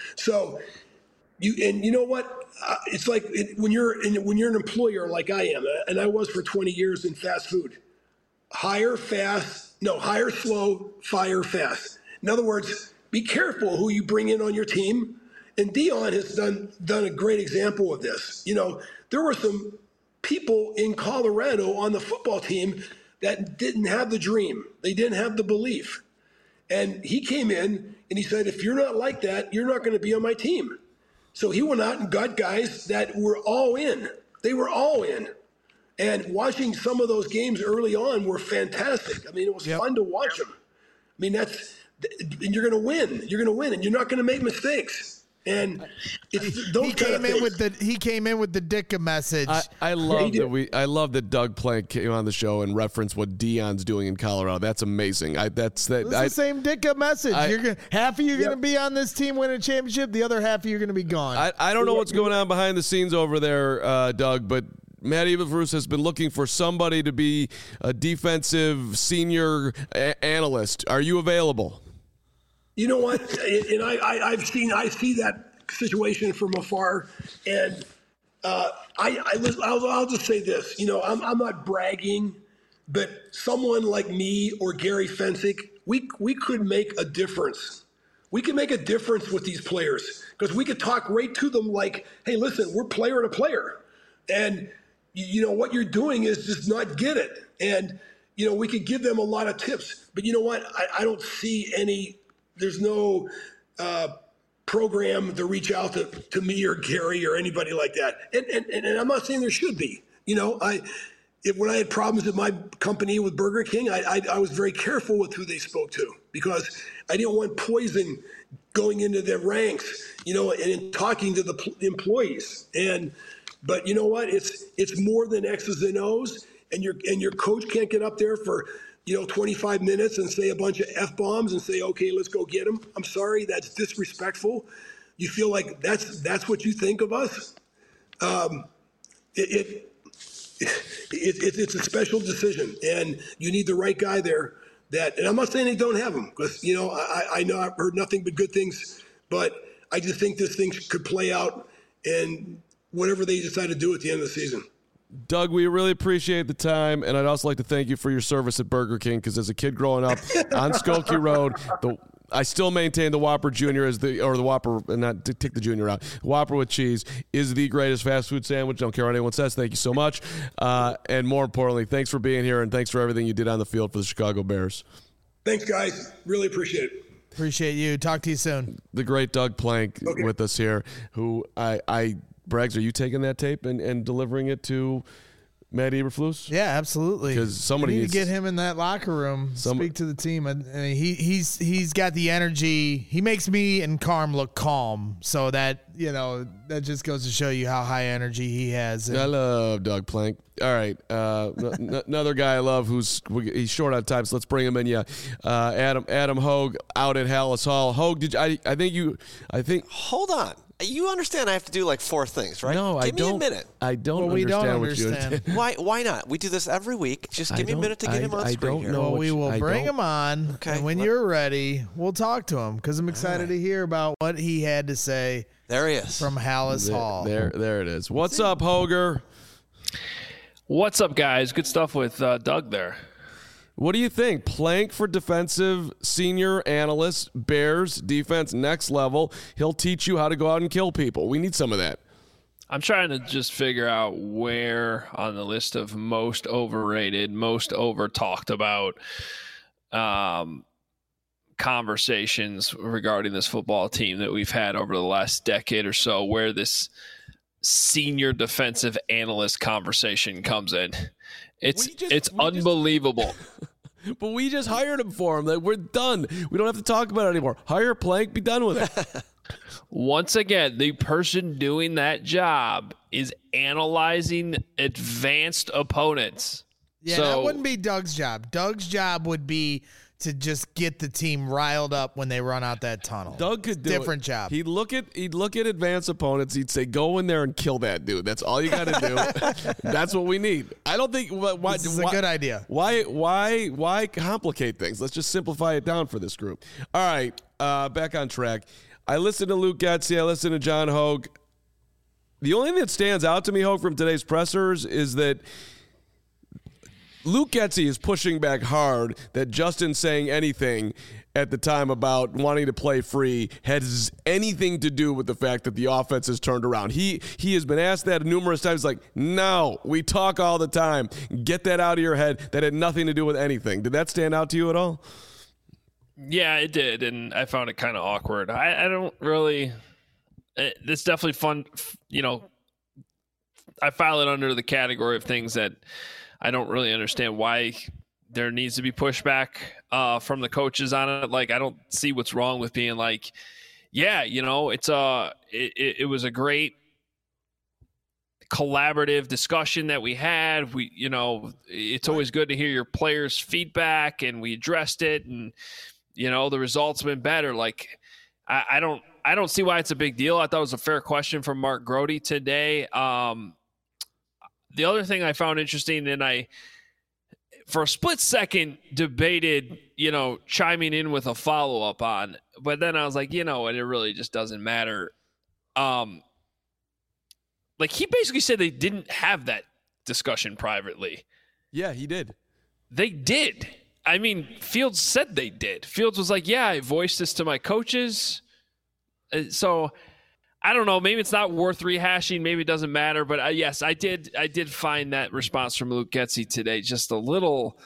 So you and you know what? Uh, it's like it, when you're in, when you're an employer like I am, and I was for twenty years in fast food. Hire fast, no, hire slow, fire fast. In other words, be careful who you bring in on your team. And Dion has done done a great example of this. You know, there were some people in Colorado on the football team that didn't have the dream. They didn't have the belief. And he came in and he said, if you're not like that, you're not going to be on my team. So he went out and got guys that were all in. They were all in. And watching some of those games early on were fantastic. I mean, it was Yep. fun to watch them. I mean, that's, and you're going to win. You're going to win, and you're not going to make mistakes. And it's those He kind came of in things. with the he came in with the Dicka message. I, I love did. that we. I love that Doug Plank came on the show and referenced what Dion's doing in Colorado. That's amazing. I that's that. it's I, the same Dicka message. I- you're gonna, half of you are Yep. going to be on this team winning a championship. The other half of you are going to be gone. I, I don't know what's going on behind the scenes over there, uh, Doug, but Matt Eberflus has been looking for somebody to be a defensive senior a- analyst. Are you available? You know what? And I, I, I've seen, I see that situation from afar, and uh, I, I, I'll, I'll just say this. You know, I'm, I'm not bragging, but someone like me or Gary Fensick, we, we could make a difference. We can make a difference with these players, because we could talk right to them like, hey, listen, we're player to player, and you, you know what you're doing is just not get it. And you know, we could give them a lot of tips, but you know what? I, I don't see any. There's no uh, program to reach out to, to me or Gary or anybody like that. And, and, and I'm not saying there should be. You know, I if, when I had problems at my company with Burger King, I, I, I was very careful with who they spoke to, because I didn't want poison going into their ranks, you know, and in talking to the p- employees. And but you know what? It's it's more than X's and O's, and your and your coach can't get up there for, you know, twenty-five minutes and say a bunch of F-bombs and say, okay, let's go get them. I'm sorry, that's disrespectful. You feel like that's that's what you think of us? Um, it, it, it, it it's a special decision, and you need the right guy there. That, and I'm not saying they don't have him, because, you know, I, I know I've heard nothing but good things, but I just think this thing could play out, and whatever they decide to do at the end of the season. Doug, we really appreciate the time, and I'd also like to thank you for your service at Burger King, because as a kid growing up on Skokie Road, the I still maintain the Whopper Junior as the, or the Whopper, and not to take the Junior out, Whopper with cheese is the greatest fast food sandwich. Don't care what anyone says. Thank you so much. Uh, and more importantly, thanks for being here, and thanks for everything you did on the field for the Chicago Bears. Thanks, guys. Really appreciate it. Appreciate you. Talk to you soon. The great Doug Plank Okay. with us here, who I, I Braggs, are you taking that tape and, and delivering it to Matt Eberflus? Yeah, absolutely. 'Cause somebody we need needs- to get him in that locker room. Some- speak to the team. I, I mean, he he's he's got the energy. He makes me and Carm look calm. So that you know that just goes to show you how high energy he has. And I love Doug Plank. All right, uh, n- n- another guy I love who's he's short on time, so let's bring him in. Yeah, uh, Adam Adam Hogue out at Hallis Hall. Hogue, did you, I? I think you. I think. Hold on. You understand I have to do like four things, right? No, give I me don't. a minute. I don't Well, we understand don't what understand. you. Why Why not? We do this every week. Just I give me a don't- minute to get I- him on I screen don't here. know. well, we which- will I bring don't- him on, Okay, and when let- you're ready, we'll talk to him because I'm excited to hear about what he had to say There he is. from Hallis There, Hall. there, there it is. What's up, Hoger? What's up, guys? Good stuff with uh, Doug there. What do you think? Plank for defensive senior analyst, Bears defense next level. He'll teach you how to go out and kill people. We need some of that. I'm trying to just figure out where on the list of most overrated, most over talked about um, conversations regarding this football team that we've had over the last decade or so, where this senior defensive analyst conversation comes in. It's We just- it's we just- unbelievable. But we just hired him for him. Like, we're done. We don't have to talk about it anymore. Hire Plank, be done with it. Once again, the person doing that job is analyzing advanced opponents. Yeah, so, that wouldn't be Doug's job. Doug's job would be to just get the team riled up when they run out that tunnel. Doug could do Different it. job. He'd look at he'd look at advanced opponents. He'd say, "Go in there and kill that dude." That's all you got to do. That's what we need. I don't think. Why, This is why, a good idea. Why why why complicate things? Let's just simplify it down for this group. All right, uh, back on track. I listened to Luke Getsy. I listened to John Hogue. The only thing that stands out to me, Hogue, from today's pressers is that Luke Getsy is pushing back hard that Justin saying anything at the time about wanting to play free has anything to do with the fact that the offense has turned around. He he has been asked that numerous times, like, no, we talk all the time. Get that out of your head. That had nothing to do with anything. Did that stand out to you at all? Yeah, it did, and I found it kind of awkward. I, I don't really. It, it's definitely fun, you know. I file it under the category of things that I don't really understand why there needs to be pushback uh, from the coaches on it. Like, I don't see what's wrong with being like, yeah, you know, it's a it, it, it was a great collaborative discussion that we had. We, you know, it's always good to hear your players' feedback, and we addressed it, and you know, the results have been better. Like, I, I don't, I don't see why it's a big deal. I thought it was a fair question from Mark Grody today. Um, the other thing I found interesting, and I, for a split second, debated, you know, chiming in with a follow up on, but then I was like, you know what, it really just doesn't matter. Um, like, he basically said they didn't have that discussion privately. Yeah, he did. They did. I mean, Fields said they did. Fields was like, yeah, I voiced this to my coaches. Uh, So I don't know. Maybe it's not worth rehashing. Maybe it doesn't matter. But uh, yes, I did I did find that response from Luke Getsy today just a little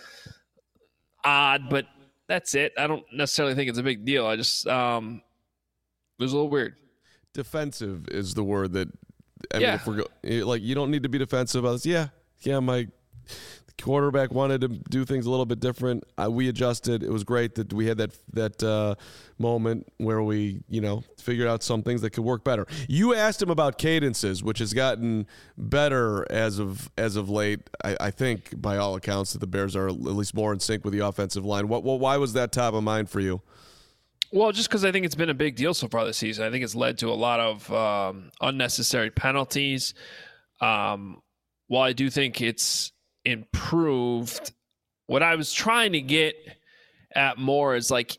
odd, but that's it. I don't necessarily think it's a big deal. I just, um, it was a little weird. Defensive is the word that, I Yeah. mean, if we're go, like, you don't need to be defensive about this. Yeah, yeah, my quarterback wanted to do things a little bit different. Uh, we adjusted. It was great that we had that that uh, moment where we, you know, figured out some things that could work better. You asked him about cadences, which has gotten better as of as of late. I, I think, by all accounts, that the Bears are at least more in sync with the offensive line. What, what why was that top of mind for you? Well, just because I think it's been a big deal so far this season. I think it's led to a lot of um, unnecessary penalties. Um, while I do think it's improved, what I was trying to get at more is like,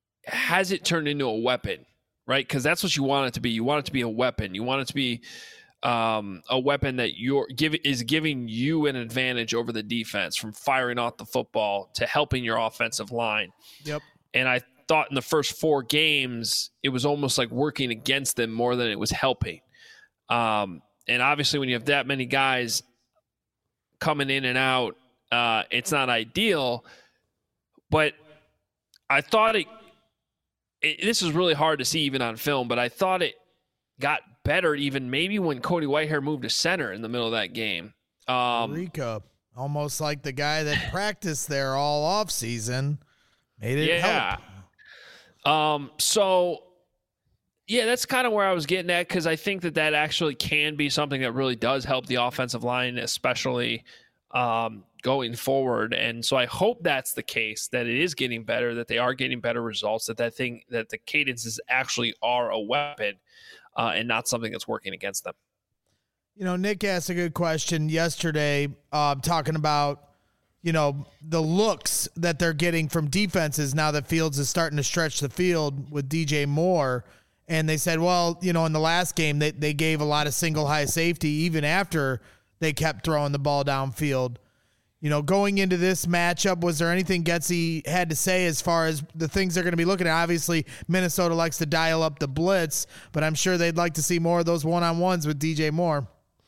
has it turned into a weapon, right? Because that's what you want it to be. You want it to be a weapon. You want it to be um, a weapon that you're give, is giving you an advantage over the defense, from firing off the football to helping your offensive line. Yep. And I thought in the first four games, it was almost like working against them more than it was helping. Um, and obviously when you have that many guys coming in and out, uh, it's not ideal. But I thought it, it, this is really hard to see even on film, but I thought it got better even maybe when Cody Whitehair moved to center in the middle of that game. Um, Rico, almost like the guy that practiced there all off season, made it yeah. help. Um, so, yeah, that's kind of where I was getting at, because I think that that actually can be something that really does help the offensive line, especially um, going forward. And so I hope that's the case, that it is getting better, that they are getting better results, that that thing, that the cadences actually are a weapon uh, and not something that's working against them. You know, Nick asked a good question yesterday, uh, talking about, you know, the looks that they're getting from defenses now that Fields is starting to stretch the field with D J Moore. And they said, well, you know, in the last game, they, they gave a lot of single high safety even after they kept throwing the ball downfield. You know, going into this matchup, was there anything Getsy had to say as far as the things they're going to be looking at? Obviously, Minnesota likes to dial up the blitz, but I'm sure they'd like to see more of those one-on-ones with D J Moore.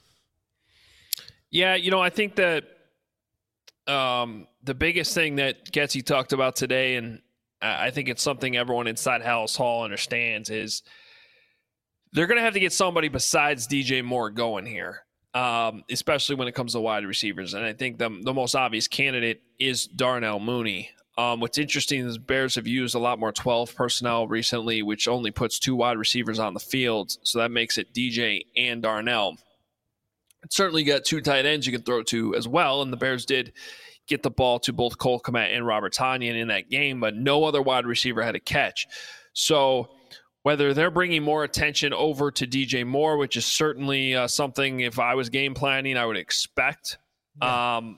Yeah, you know, I think that um, the biggest thing that Getsy talked about today, and I think it's something everyone inside Halas Hall understands, is they're going to have to get somebody besides D J Moore going here, um, especially when it comes to wide receivers. And I think the, the most obvious candidate is Darnell Mooney. Um, what's interesting is Bears have used a lot more twelve personnel recently, which only puts two wide receivers on the field. So that makes it D J and Darnell. It's certainly got two tight ends you can throw to as well, and the Bears did get the ball to both Cole Kmet and Robert Tonyan in that game, but no other wide receiver had a catch. So whether they're bringing more attention over to D J Moore, which is certainly uh, something, if I was game planning, I would expect. Yeah. Um,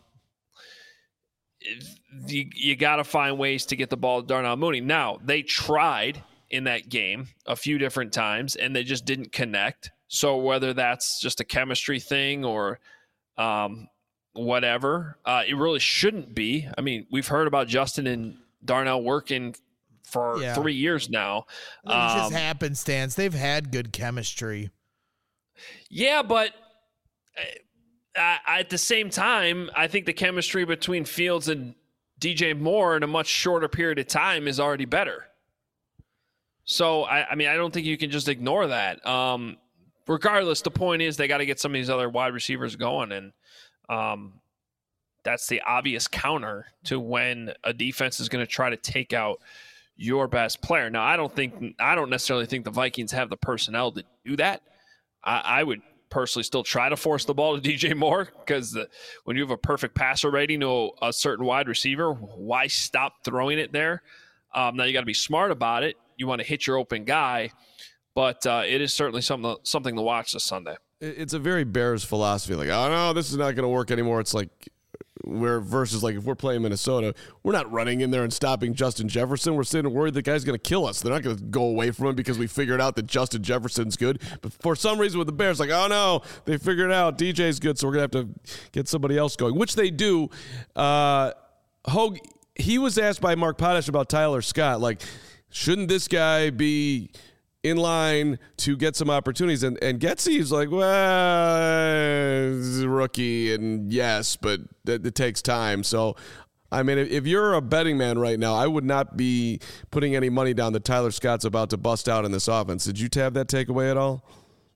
you you got to find ways to get the ball to Darnell Mooney. Now, they tried in that game a few different times, and they just didn't connect. So whether that's just a chemistry thing or um, whatever, uh, it really shouldn't be. I mean, we've heard about Justin and Darnell working for yeah. three years now. It's um, just happenstance. They've had good chemistry. Yeah, but uh, at the same time, I think the chemistry between Fields and D J Moore in a much shorter period of time is already better. So, I, I mean, I don't think you can just ignore that. Um, regardless, the point is they got to get some of these other wide receivers going, and um, that's the obvious counter to when a defense is going to try to take out your best player. Now, I don't think I don't necessarily think the Vikings have the personnel to do that. I, I would personally still try to force the ball to D J Moore, because when you have a perfect passer rating to a certain wide receiver, why stop throwing it there? Um, now you got to be smart about it. You want to hit your open guy, but uh, it is certainly something something to watch this Sunday. It's a very Bears philosophy. Like, oh no, this is not going to work anymore. It's like where versus like if we're playing Minnesota, we're not running in there and stopping Justin Jefferson. We're sitting worried the guy's going to kill us. They're not going to go away from him because we figured out that Justin Jefferson's good. But for some reason with the Bears, like, oh no, they figured it out. D J's good, so we're going to have to get somebody else going, which they do. Uh, Hogue, he was asked by Mark Potash about Tyler Scott. Like, shouldn't this guy be in line to get some opportunities? And, and Getsy's like, well, he's a rookie, and yes, but it, it takes time. So, I mean, if, if you're a betting man right now, I would not be putting any money down that Tyler Scott's about to bust out in this offense. Did you have that takeaway at all?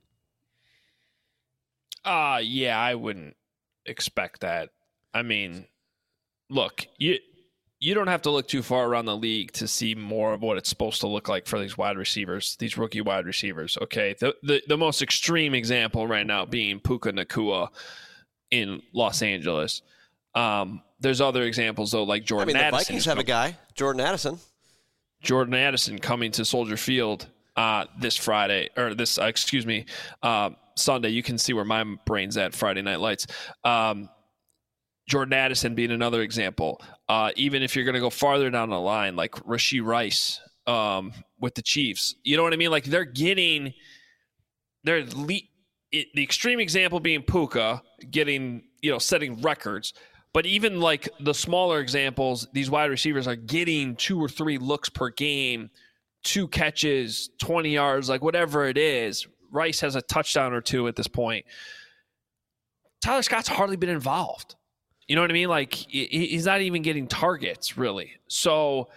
Uh, yeah, I wouldn't expect that. I mean, look, you you don't have to look too far around the league to see more of what it's supposed to look like for these wide receivers, these rookie wide receivers. Okay, the the, the most extreme example right now being Puka Nacua in Los Angeles. Um, there's other examples though, like Jordan. I mean, the Addison Vikings have a guy, Jordan Addison. Jordan Addison coming to Soldier Field uh, this Friday, or this, uh, excuse me, uh, Sunday. You can see where my brain's at. Friday Night Lights. Um, Jordan Addison being another example. Uh, even if you're going to go farther down the line, like Rashee Rice um, with the Chiefs, you know what I mean? Like they're getting, they're le- it, the extreme example being Puka getting, you know, setting records. But even like the smaller examples, these wide receivers are getting two or three looks per game, two catches, twenty yards, like whatever it is. Rice has a touchdown or two at this point. Tyler Scott's hardly been involved. You know what I mean? Like, he's not even getting targets, really. So,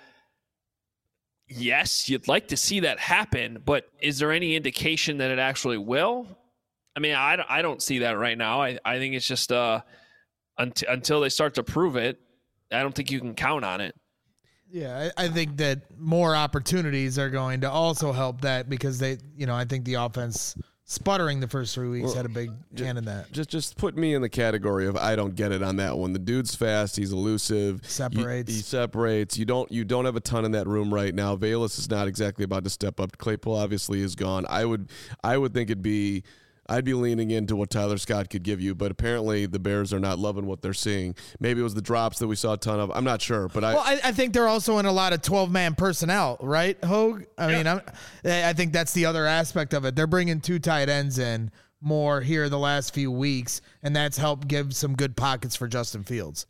yes, you'd like to see that happen, but is there any indication that it actually will? I mean, I don't, I don't see that right now. I, I think it's just uh, unt- until they start to prove it, I don't think you can count on it. Yeah, I, I think that more opportunities are going to also help that because they, you know, I think the offense sputtering the first three weeks well, had a big just, hand in that. Just just put me in the category of I don't get it on that one. The dude's fast, he's elusive, separates. You, he separates. You don't you don't have a ton in that room right now. Velus is not exactly about to step up. Claypool obviously is gone. I would I would think it'd be I'd be leaning into what Tyler Scott could give you, but apparently the Bears are not loving what they're seeing. Maybe it was the drops that we saw a ton of. I'm not sure, but I. Well, I, I think they're also in a lot of twelve-man personnel, right, Hogue? I yeah. mean, I'm, I think that's the other aspect of it. They're bringing two tight ends in more here the last few weeks, and that's helped give some good pockets for Justin Fields.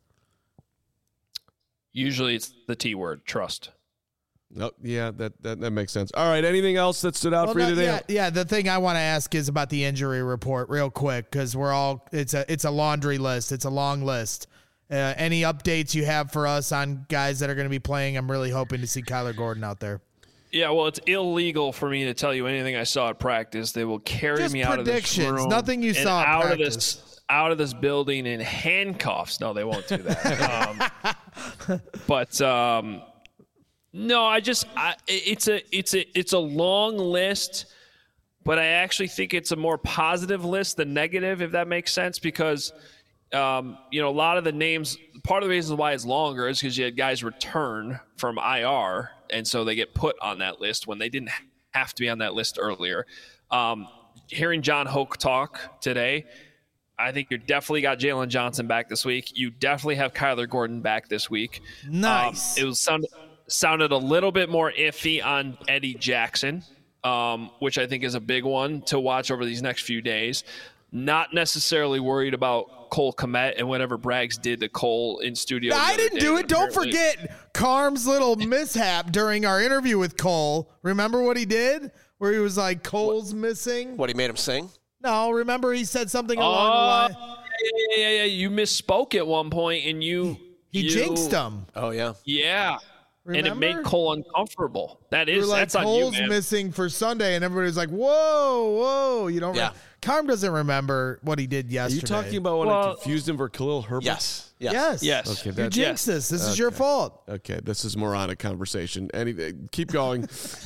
Usually it's the T word, trust. Oh, yeah, that, that that makes sense. All right, anything else that stood out well, for you no, today? Yeah, yeah, the thing I want to ask is about the injury report real quick because we're all it's a it's a laundry list. It's a long list. Uh, any updates you have for us on guys that are going to be playing? I'm really hoping to see Kyler Gordon out there. Yeah, well, it's illegal for me to tell you anything I saw at practice. They will carry Just me out of this room. Nothing you saw at out practice. Of this, out of this building in handcuffs. No, they won't do that. um, but um, no, I just I, it's a it's a it's a long list, but I actually think it's a more positive list than negative, if that makes sense, because um, you know, a lot of the names. Part of the reason why it's longer is because you had guys return from I R, and so they get put on that list when they didn't have to be on that list earlier. Um, hearing John Hoke talk today, I think you definitely got Jalen Johnson back this week. You definitely have Kyler Gordon back this week. Nice. Um, it was sound, sounded a little bit more iffy on Eddie Jackson, um, which I think is a big one to watch over these next few days. Not necessarily worried about Cole Kmet and whatever Braggs did to Cole in studio. I didn't do it. Don't forget Carm's little mishap during our interview with Cole. Remember what he did? Where he was like, Cole's what, missing? What, he made him sing? No, remember he said something along uh, the line? Yeah, yeah, yeah. You misspoke at one point and you... He you, jinxed him. Oh, yeah. Yeah. Remember? And it made Cole uncomfortable. That is, like, that's on Cole's you, man. missing for Sunday, and everybody was like, whoa, whoa. You don't yeah. remember. Carm doesn't remember what he did yesterday. Are you talking about when well, I confused him for Khalil Herbert? Yes. Yes. Yes. Yes. Okay, you that's, jinxed yes. this. This okay. is your fault. Okay, this is moronic conversation. Any, keep going.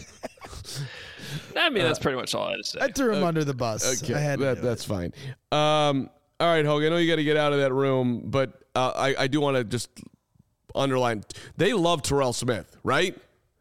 I mean, that's pretty much all I had to say. I threw him uh, under the bus. Okay, I had that, that's it. fine. Um, all right, Hogue, I know you got to get out of that room, but uh, I, I do want to just underline, they love Terrell Smith, right?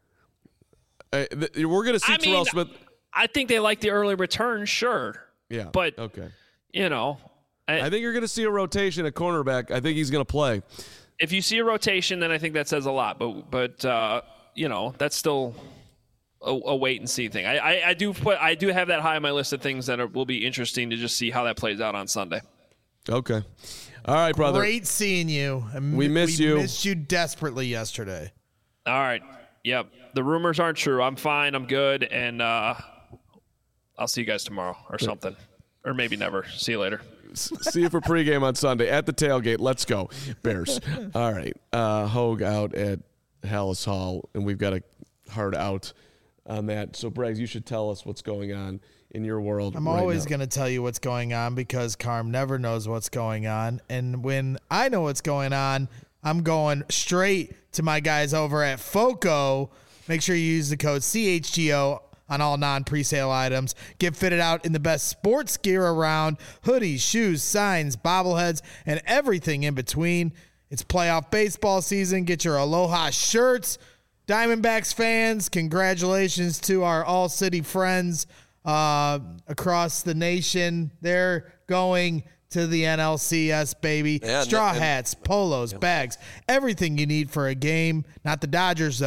Uh, th- we're going to see I Terrell mean, Smith. I think they like the early return, sure. Yeah. But, okay. you know. I, I think you're going to see a rotation at cornerback. I think he's going to play. If you see a rotation, then I think that says a lot. But, but uh, you know, that's still a, a wait and see thing. I, I, I do put I do have that high on my list of things that are, will be interesting to just see how that plays out on Sunday. Okay. All right, brother. Great seeing you. We miss we you. We missed you desperately yesterday. All right. Yep. The rumors aren't true. I'm fine. I'm good. And uh, I'll see you guys tomorrow or something. Or maybe never. See you later. See you for pregame on Sunday at the tailgate. Let's go, Bears. All right. Uh, Hogue out at Hallis Hall, and we've got a hard out on that. So, Braggs, you should tell us what's going on in your world. I'm right always going to tell you what's going on because Carm never knows what's going on. And when I know what's going on, I'm going straight to my guys over at FOCO. Make sure you use the code C H G O on all non-presale items. Get fitted out in the best sports gear around. Hoodies, shoes, signs, bobbleheads, and everything in between. It's playoff baseball season. Get your Aloha shirts. Diamondbacks fans, congratulations to our all-city friends uh, across the nation. They're going to the N L C S, baby. Yeah, Straw and, hats, polos, yeah. bags, everything you need for a game. Not the Dodgers, though.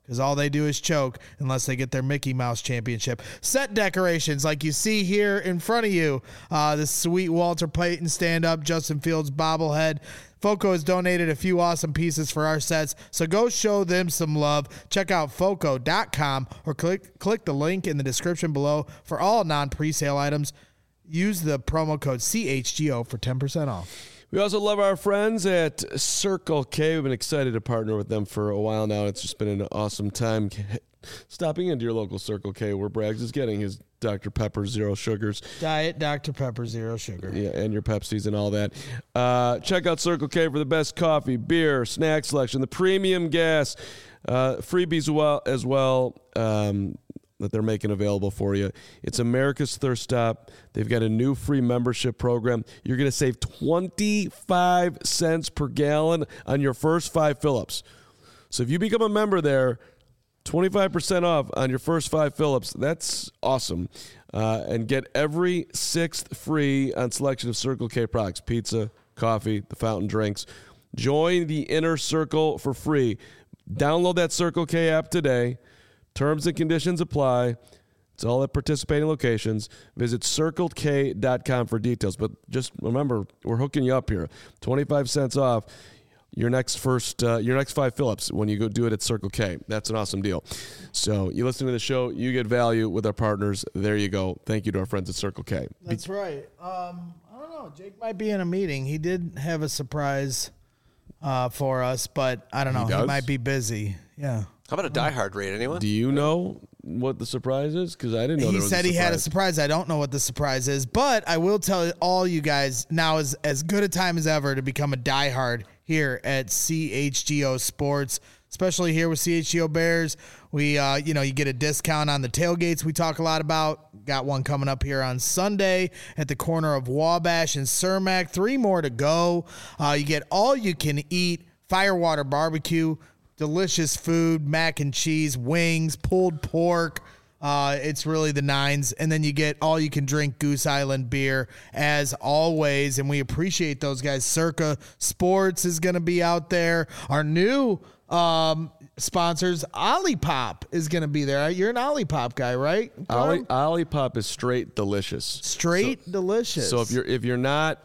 because all they do is choke unless they get their Mickey Mouse championship. Set decorations like you see here in front of you. Uh, the sweet Walter Payton stand-up, Justin Fields bobblehead. Foco has donated a few awesome pieces for our sets, so go show them some love. Check out foco dot com or click click the link in the description below for all non-presale items. Use the promo code C H G O for ten percent off. We also love our friends at Circle K. We've been excited to partner with them for a while now. It's just been an awesome time stopping into your local Circle K where Braggs is getting his Doctor Pepper Zero Sugars. Diet Doctor Pepper Zero Sugar. Yeah, and your Pepsis and all that. Uh, check out Circle K for the best coffee, beer, snack selection, the premium gas, uh, freebies well, as well. Um, that they're making available for you. It's America's Thirst Stop. They've got a new free membership program. You're going to save twenty-five cents per gallon on your first five fill-ups. So if you become a member there, twenty-five percent off on your first five fill-ups. That's awesome. Uh, and get every sixth free on selection of Circle K products, pizza, coffee, the fountain drinks. Join the Inner Circle for free. Download that Circle K app today. Terms and conditions apply. It's all at participating locations. Visit circle k dot com for details. But just remember, we're hooking you up here. twenty-five cents off your next first, uh, your next five fill-ups when you go do it at Circle K. That's an awesome deal. So you listen to the show, you get value with our partners. There you go. Thank you to our friends at Circle K. That's right. Um, I don't know. Jake might be in a meeting. He did have a surprise uh, for us, but I don't know. He, he might be busy. Yeah. How about a Die Hard rate, anyone? Do you know what the surprise is? Because I didn't know he there was said a he had a surprise. I don't know what the surprise is, but I will tell all you guys now is as good a time as ever to become a Die Hard here at C H G O Sports, especially here with C H G O Bears. We, uh, you know, you get a discount on the tailgates we talk a lot about. Got one coming up here on Sunday at the corner of Wabash and Cermak. Three more to go. Uh, you get all you can eat Firewater Barbecue. Delicious food, mac and cheese, wings, pulled pork. Uh, it's really the nines. And then you get all you can drink Goose Island beer as always. And we appreciate those guys. Circa Sports is going to be out there. Our new um, sponsors, Olipop is going to be there. You're an Olipop guy, right? Ollie, Olipop is straight delicious. Straight so, delicious. So if you're if you're not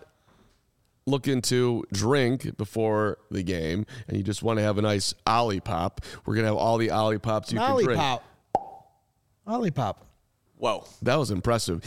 looking to drink before the game and you just want to have a nice Olipop, we're going to have all the Olipops you Olipop. can drink. Olipop. Whoa. That was impressive.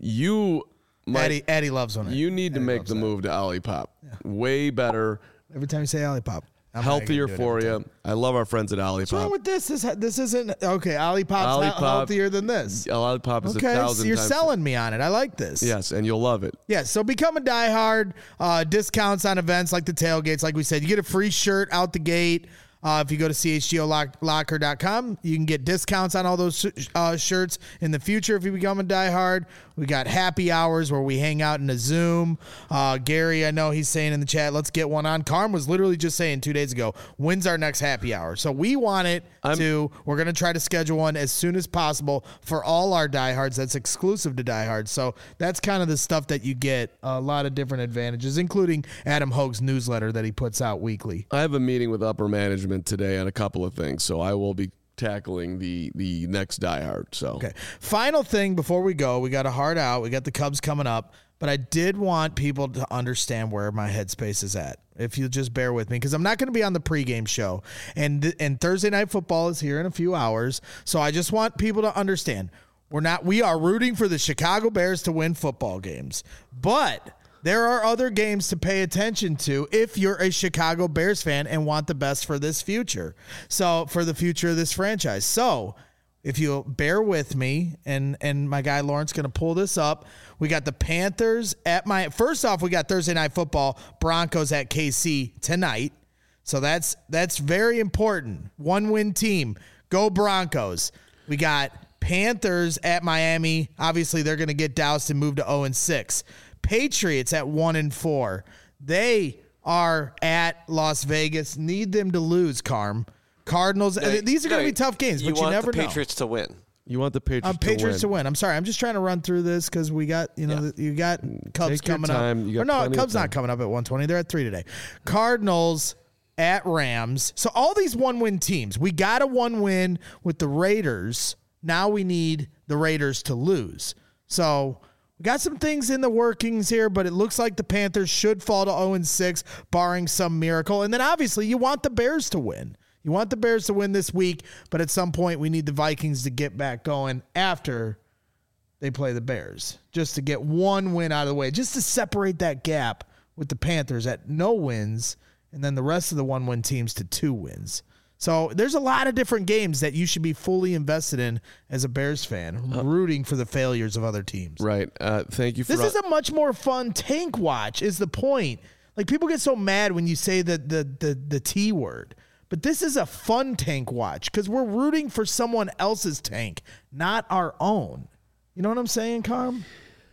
You might, Eddie, Eddie loves one. You need Eddie to make the that. move to Olipop. Yeah. Way better. Every time you say Olipop. I'm healthier for you. I love our friends at Olipop. What's wrong with this? This this isn't okay. Olipop's Olipop, not healthier than this. Olipop is okay, a thousand so you're times selling me on it. I like this. Yes, and you'll love it. Yeah, so become a diehard. Uh, discounts on events like the tailgates. Like we said, you get a free shirt out the gate. Uh, if you go to C H G O locker dot com, you can get discounts on all those uh, shirts in the future if you become a diehard. We got happy hours where we hang out in a Zoom. Uh, Gary, I know he's saying in the chat, let's get one on. Carm was literally just saying two days ago, when's our next happy hour? So we want it I'm, to, we're going to try to schedule one as soon as possible for all our diehards. That's exclusive to diehards. So that's kind of the stuff that you get, a lot of different advantages, including Adam Hogue's newsletter that he puts out weekly. I have a meeting with upper management today on a couple of things, so I will be tackling the the next diehard. So okay, final thing before we go, we got a hard out, we got the Cubs coming up, but I did want people to understand where my headspace is at, if you'll just bear with me, because I'm not going to be on the pregame show, and and Thursday Night Football is here in a few hours, so I just want people to understand we're not we are rooting for the Chicago Bears to win football games, but there are other games to pay attention to if you're a Chicago Bears fan and want the best for this future. So for the future of this franchise. So if you'll bear with me, and, and my guy Lawrence going to pull this up. We got the Panthers at my, first off, we got Thursday Night Football, Broncos at K C tonight. So that's, that's very important. One win team. Go Broncos. We got Panthers at Miami. Obviously they're going to get doused and move to oh and six. Patriots at one and four. They are at Las Vegas. Need them to lose, Carm. Cardinals. No, these are no, going to be tough games, you but you never the know. Patriots to win. You want the Patriots, um, Patriots to, win. to win. I'm sorry. I'm just trying to run through this because we got, you know, Yeah. you got Cubs Take your coming time. up. You got or no, plenty of Cubs time. not coming up at one twenty. They're at three today. Cardinals at Rams. So all these one-win teams, we got a one-win with the Raiders. Now we need the Raiders to lose. So we got some things in the workings here, but it looks like the Panthers should fall to oh and six, barring some miracle. And then obviously you want the Bears to win. You want the Bears to win this week, but at some point we need the Vikings to get back going after they play the Bears, just to get one win out of the way, just to separate that gap with the Panthers at no wins, and then the rest of the one-win teams to two wins. So there's a lot of different games that you should be fully invested in as a Bears fan, uh, rooting for the failures of other teams. Right. Uh, thank you for This is a much more fun tank watch is the point. Like, people get so mad when you say the the the, the T word. But this is a fun tank watch because we're rooting for someone else's tank, not our own. You know what I'm saying, Carm?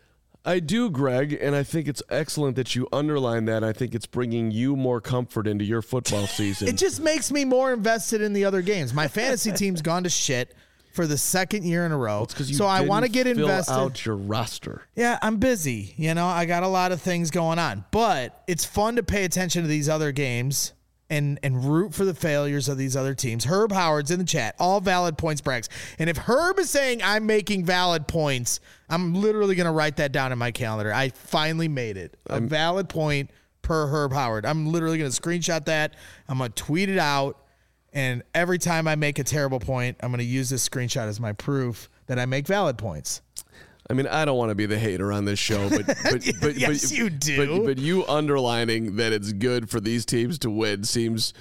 I do, Greg, and I think it's excellent that you underline that. I think it's bringing you more comfort into your football season. It just makes me more invested in the other games. My fantasy team's gone to shit for the second year in a row. Well, it's 'cause you so I didn't want to get fill invested. out your roster. Yeah, I'm busy. You know, I got a lot of things going on. But it's fun to pay attention to these other games and and root for the failures of these other teams. Herb Howard's in the chat. All valid points brags. And if Herb is saying I'm making valid points, I'm literally going to write that down in my calendar. I finally made it. A I'm, valid point per Herb Howard. I'm literally going to screenshot that. I'm going to tweet it out. And every time I make a terrible point, I'm going to use this screenshot as my proof that I make valid points. I mean, I don't want to be the hater on this show, but but but, yes, but you do. But, but you underlining that it's good for these teams to win seems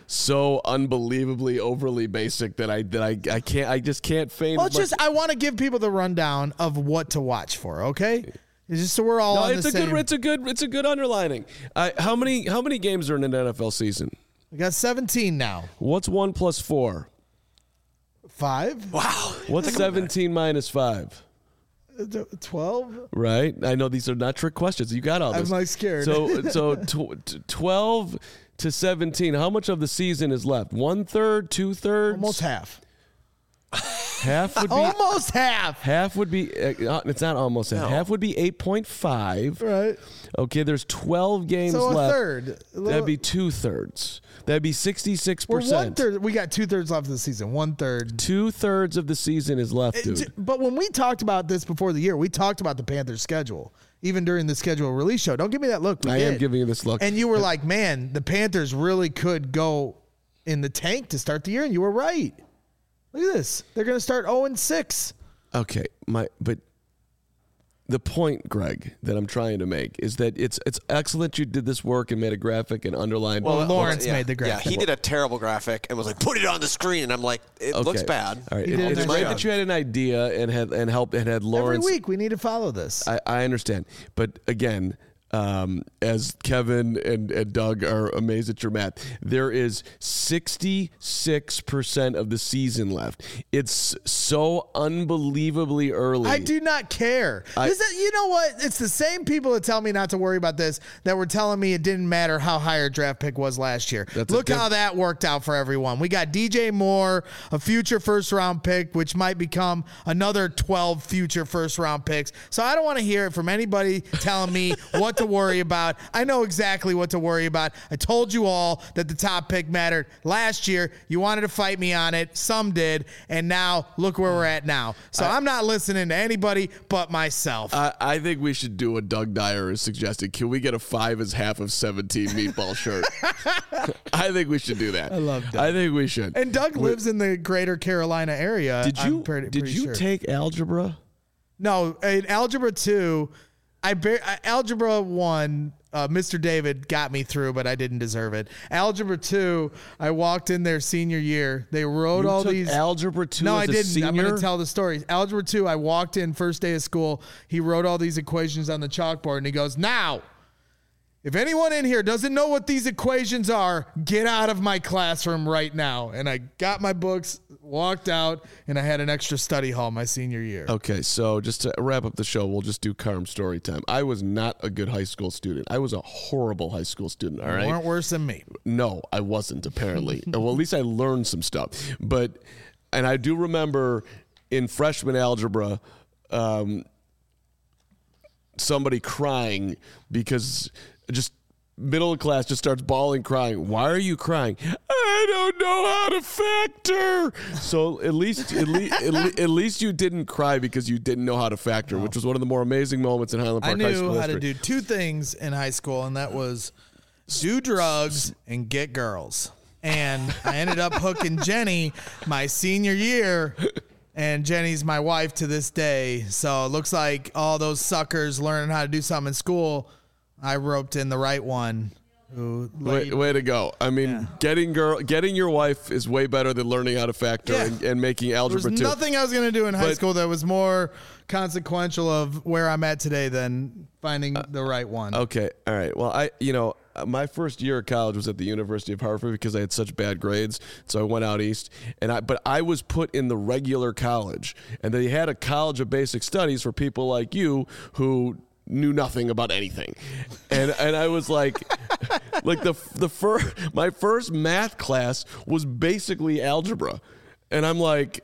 so unbelievably overly basic that I that I, I can't I just can't feign. Well, it's just I want to give people the rundown of what to watch for. Okay, it's just so we're all. No, on it's the a same. good it's a good it's a good underlining. Uh, how many how many games are in an N F L season? We got seventeen now. What's one plus four? Five. Wow. What's seventeen minus five? twelve. Right. I know these are not trick questions. You got all this. I'm like scared. So so tw- twelve to seventeen. How much of the season is left? One third, two thirds, almost half. Half would be almost half. Half would be. Uh, it's not almost half. No. Half would be eight point five. Right. Okay. There's twelve games so a left. Third. That'd be two thirds. That'd be sixty-six We're percent. one third. We got two thirds left of the season. One third. Two thirds of the season is left, dude. It, but when we talked about this before the year, we talked about the Panthers' schedule, even during the schedule release show. Don't give me that look. We I did. am giving you this look. And you were like, man, the Panthers really could go in the tank to start the year. And you were right. Look at this. They're going to start oh and six. Okay. My, but the point, Greg, that I'm trying to make is that it's it's excellent you did this work and made a graphic and underlined. Well, Lawrence well, yeah, made the graphic. Yeah, he did a terrible graphic and was like, put it on the screen. And I'm like, it okay. looks bad. All right. It, it's great that you had an idea and had and helped and had Lawrence. Every week we need to follow this. I, I understand. But again, um, as Kevin and, and Doug are amazed at your math, there is sixty-six percent of the season left. It's so unbelievably early. I do not care. I, this is, you know what? It's the same people that tell me not to worry about this that were telling me it didn't matter how high our draft pick was last year. Look diff- how that worked out for everyone. We got D J Moore, a future first round pick, which might become another twelve future first round picks. So I don't want to hear it from anybody telling me what to worry about. I know exactly what to worry about. I told you all that the top pick mattered last year. You wanted to fight me on it. Some did. And now look where we're at now. So I, I'm not listening to anybody but myself. I, I think we should do what Doug Dyer is suggesting. Can we get a five as half of seventeen meatball shirt? I think we should do that. I love Doug. I think we should. And Doug we, lives in the greater Carolina area. Did you, pretty, did pretty you sure. take algebra? No, in algebra two, I bar- algebra one, uh, Mister David got me through, but I didn't deserve it. Algebra two, I walked in there senior year. They wrote you all took these. Algebra two. No, as I a didn't. Senior? I'm going to tell the story. Algebra two, I walked in first day of school. He wrote all these equations on the chalkboard, and he goes, "Now, if anyone in here doesn't know what these equations are, get out of my classroom right now." And I got my books, walked out, and I had an extra study hall my senior year. Okay, so just to wrap up the show, we'll just do Carm story time. I was not a good high school student. I was a horrible high school student, all right? You weren't worse than me. No, I wasn't, apparently. Well, at least I learned some stuff. But, and I do remember in freshman algebra, um, somebody crying because just middle of class just starts bawling, crying. Why are you crying? I don't know how to factor. So at least at least, at, le- at least you didn't cry because you didn't know how to factor, no. which was one of the more amazing moments in Highland Park I High School knew how history. to do two things in high school, and that was do drugs and get girls. And I ended up hooking Jenny my senior year, and Jenny's my wife to this day. So it looks like all those suckers learning how to do something in school, I roped in the right one. Who way, way to go. I mean, yeah. getting girl, getting your wife is way better than learning how to factor yeah. and, and making algebra There was too. nothing I was going to do in high but, school that was more consequential of where I'm at today than finding uh, the right one. Okay. All right. Well, I, you know, my first year of college was at the University of Hartford because I had such bad grades. So I went out east, and I, but I was put in the regular college, and they had a college of basic studies for people like you who knew nothing about anything. And and I was like, like the the first, my first math class was basically algebra. And I'm like,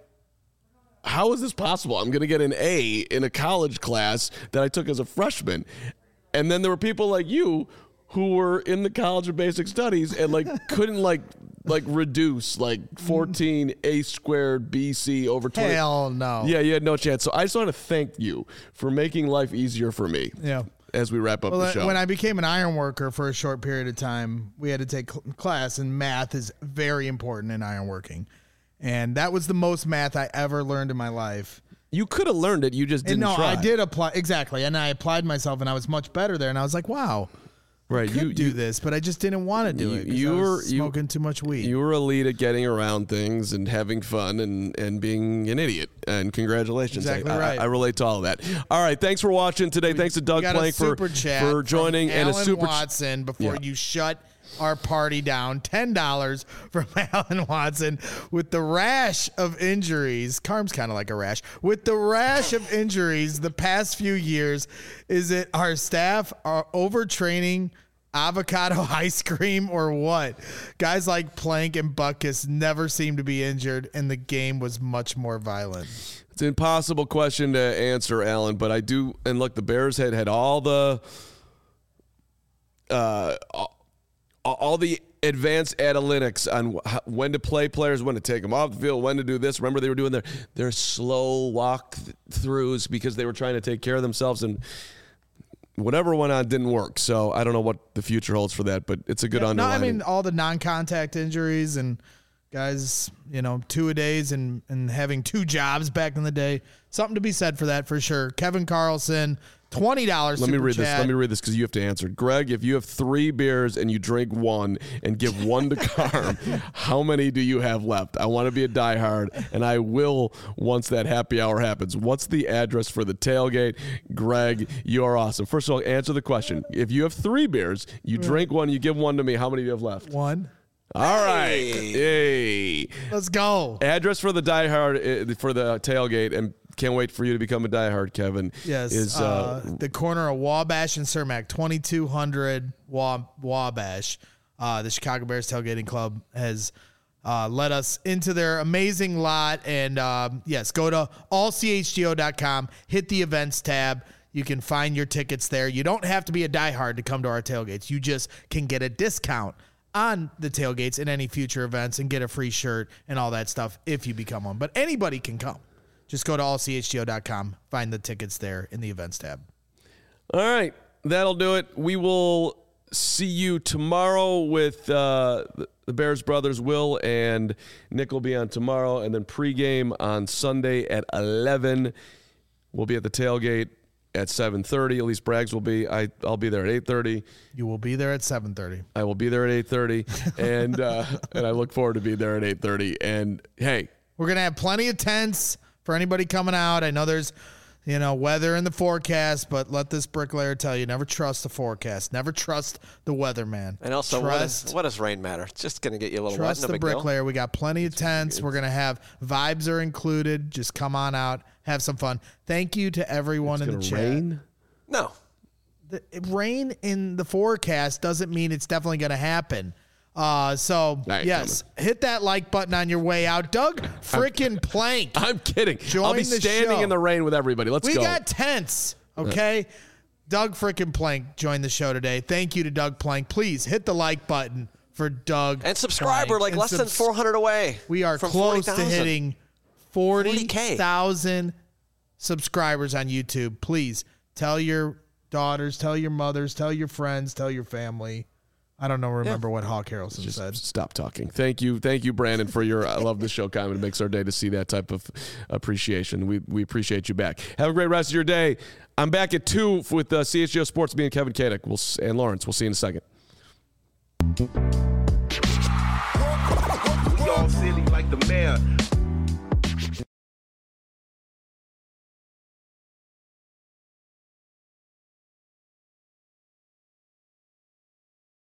how is this possible? I'm going to get an A in a college class that I took as a freshman. And then there were people like you who were in the College of Basic Studies and like couldn't like like reduce like fourteen a squared B C over twenty. Hell no. Yeah, you had no chance. So I just want to thank you for making life easier for me. Yeah. As we wrap up well, the show. When I became an iron worker for a short period of time, we had to take cl- class, and math is very important in ironworking. And that was the most math I ever learned in my life. You could have learned it. You just didn't and no, try. I did apply. Exactly. And I applied myself, and I was much better there. And I was like, wow. Right, I could you do you, this, but I just didn't want to do you, it. You I were was smoking you, too much weed. You were elite at getting around things and having fun and, and being an idiot. And congratulations! Exactly I, right. I, I relate to all of that. All right, thanks for watching today. We, thanks to Doug Plank for for joining and a super Watson before yeah. you shut our party down. ten dollars from Alan Watson with the rash of injuries. Carm's kind of like a rash. With the rash of injuries the past few years, is it our staff are overtraining, avocado ice cream, or what? Guys like Plank and Butkus never seemed to be injured, and the game was much more violent. It's an impossible question to answer, Alan, but I do. And look, the Bears had had all the uh, all the advanced analytics on when to play players, when to take them off the field, when to do this. Remember, they were doing their their slow walk throughs because they were trying to take care of themselves, and whatever went on didn't work. So I don't know what the future holds for that, but it's a good yeah, underlining. No, I mean, all the non-contact injuries and guys, you know, two-a-days and, and having two jobs back in the day. Something to be said for that, for sure. Kevin Carlson, twenty dollars Let me read chat. this. Let me read this because you have to answer. Greg, if you have three beers and you drink one and give one to Carm, how many do you have left? I want to be a diehard, and I will once that happy hour happens. What's the address for the tailgate? Greg, you are awesome. First of all, answer the question. If you have three beers, you drink one, you give one to me, how many do you have left? One. All right. Hey. Let's go. Address for the diehard, uh, for the tailgate, and can't wait for you to become a diehard, Kevin. Yes. Is uh, uh, the corner of Wabash and Cermak, twenty-two hundred Wa- Wabash. Uh, the Chicago Bears Tailgating Club has uh, let us into their amazing lot. And um, yes, go to all c h g o dot com, hit the events tab. You can find your tickets there. You don't have to be a diehard to come to our tailgates. You just can get a discount on the tailgates and any future events and get a free shirt and all that stuff if you become one. But anybody can come. Just go to all c h g o dot com, find the tickets there in the events tab. All right, that'll do it. We will see you tomorrow with uh, the Bears brothers. Will and Nick will be on tomorrow, and then pregame on Sunday at eleven. We'll be at the tailgate at seven thirty. At least Braggs will be. I, I'll be there at eight thirty. You will be there at seven thirty. I will be there at eight thirty, and uh, and I look forward to being there at eight thirty. And, hey. We're going to have plenty of tents for anybody coming out. I know there's, you know, weather in the forecast, but let this bricklayer tell you, never trust the forecast. Never trust the weatherman. And also, trust, what, is, what does rain matter? It's just going to get you a little trust wet. Trust the bricklayer. We got plenty of it's, tents. it's, We're going to have vibes are included. Just come on out. Have some fun. Thank you to everyone in the chat. Rain? No. The, rain in the forecast doesn't mean it's definitely going to happen. Uh, so, right, yes, coming. Hit that like button on your way out. Doug freaking Plank. I'm kidding. Join I'll be the standing show. in the rain with everybody. Let's we go. We got tents, okay? Doug frickin' Plank joined the show today. Thank you to Doug Plank. Please hit the like button for Doug. And subscribe. Plank. We're like and less subs- than four hundred away. We are from close forty, to hitting forty thousand subscribers on YouTube. Please tell your daughters, tell your mothers, tell your friends, tell your family. I don't know. Remember yeah. what Hawk Harrelson Just said. Stop talking. Thank you. Thank you, Brandon, for your I love this show comment. It makes our day to see that type of appreciation. We we appreciate you back. Have a great rest of your day. I'm back at two with uh, C H G O Sports, me and Kevin Kadick we'll, and Lawrence. We'll see you in a second. We all silly like the mayor.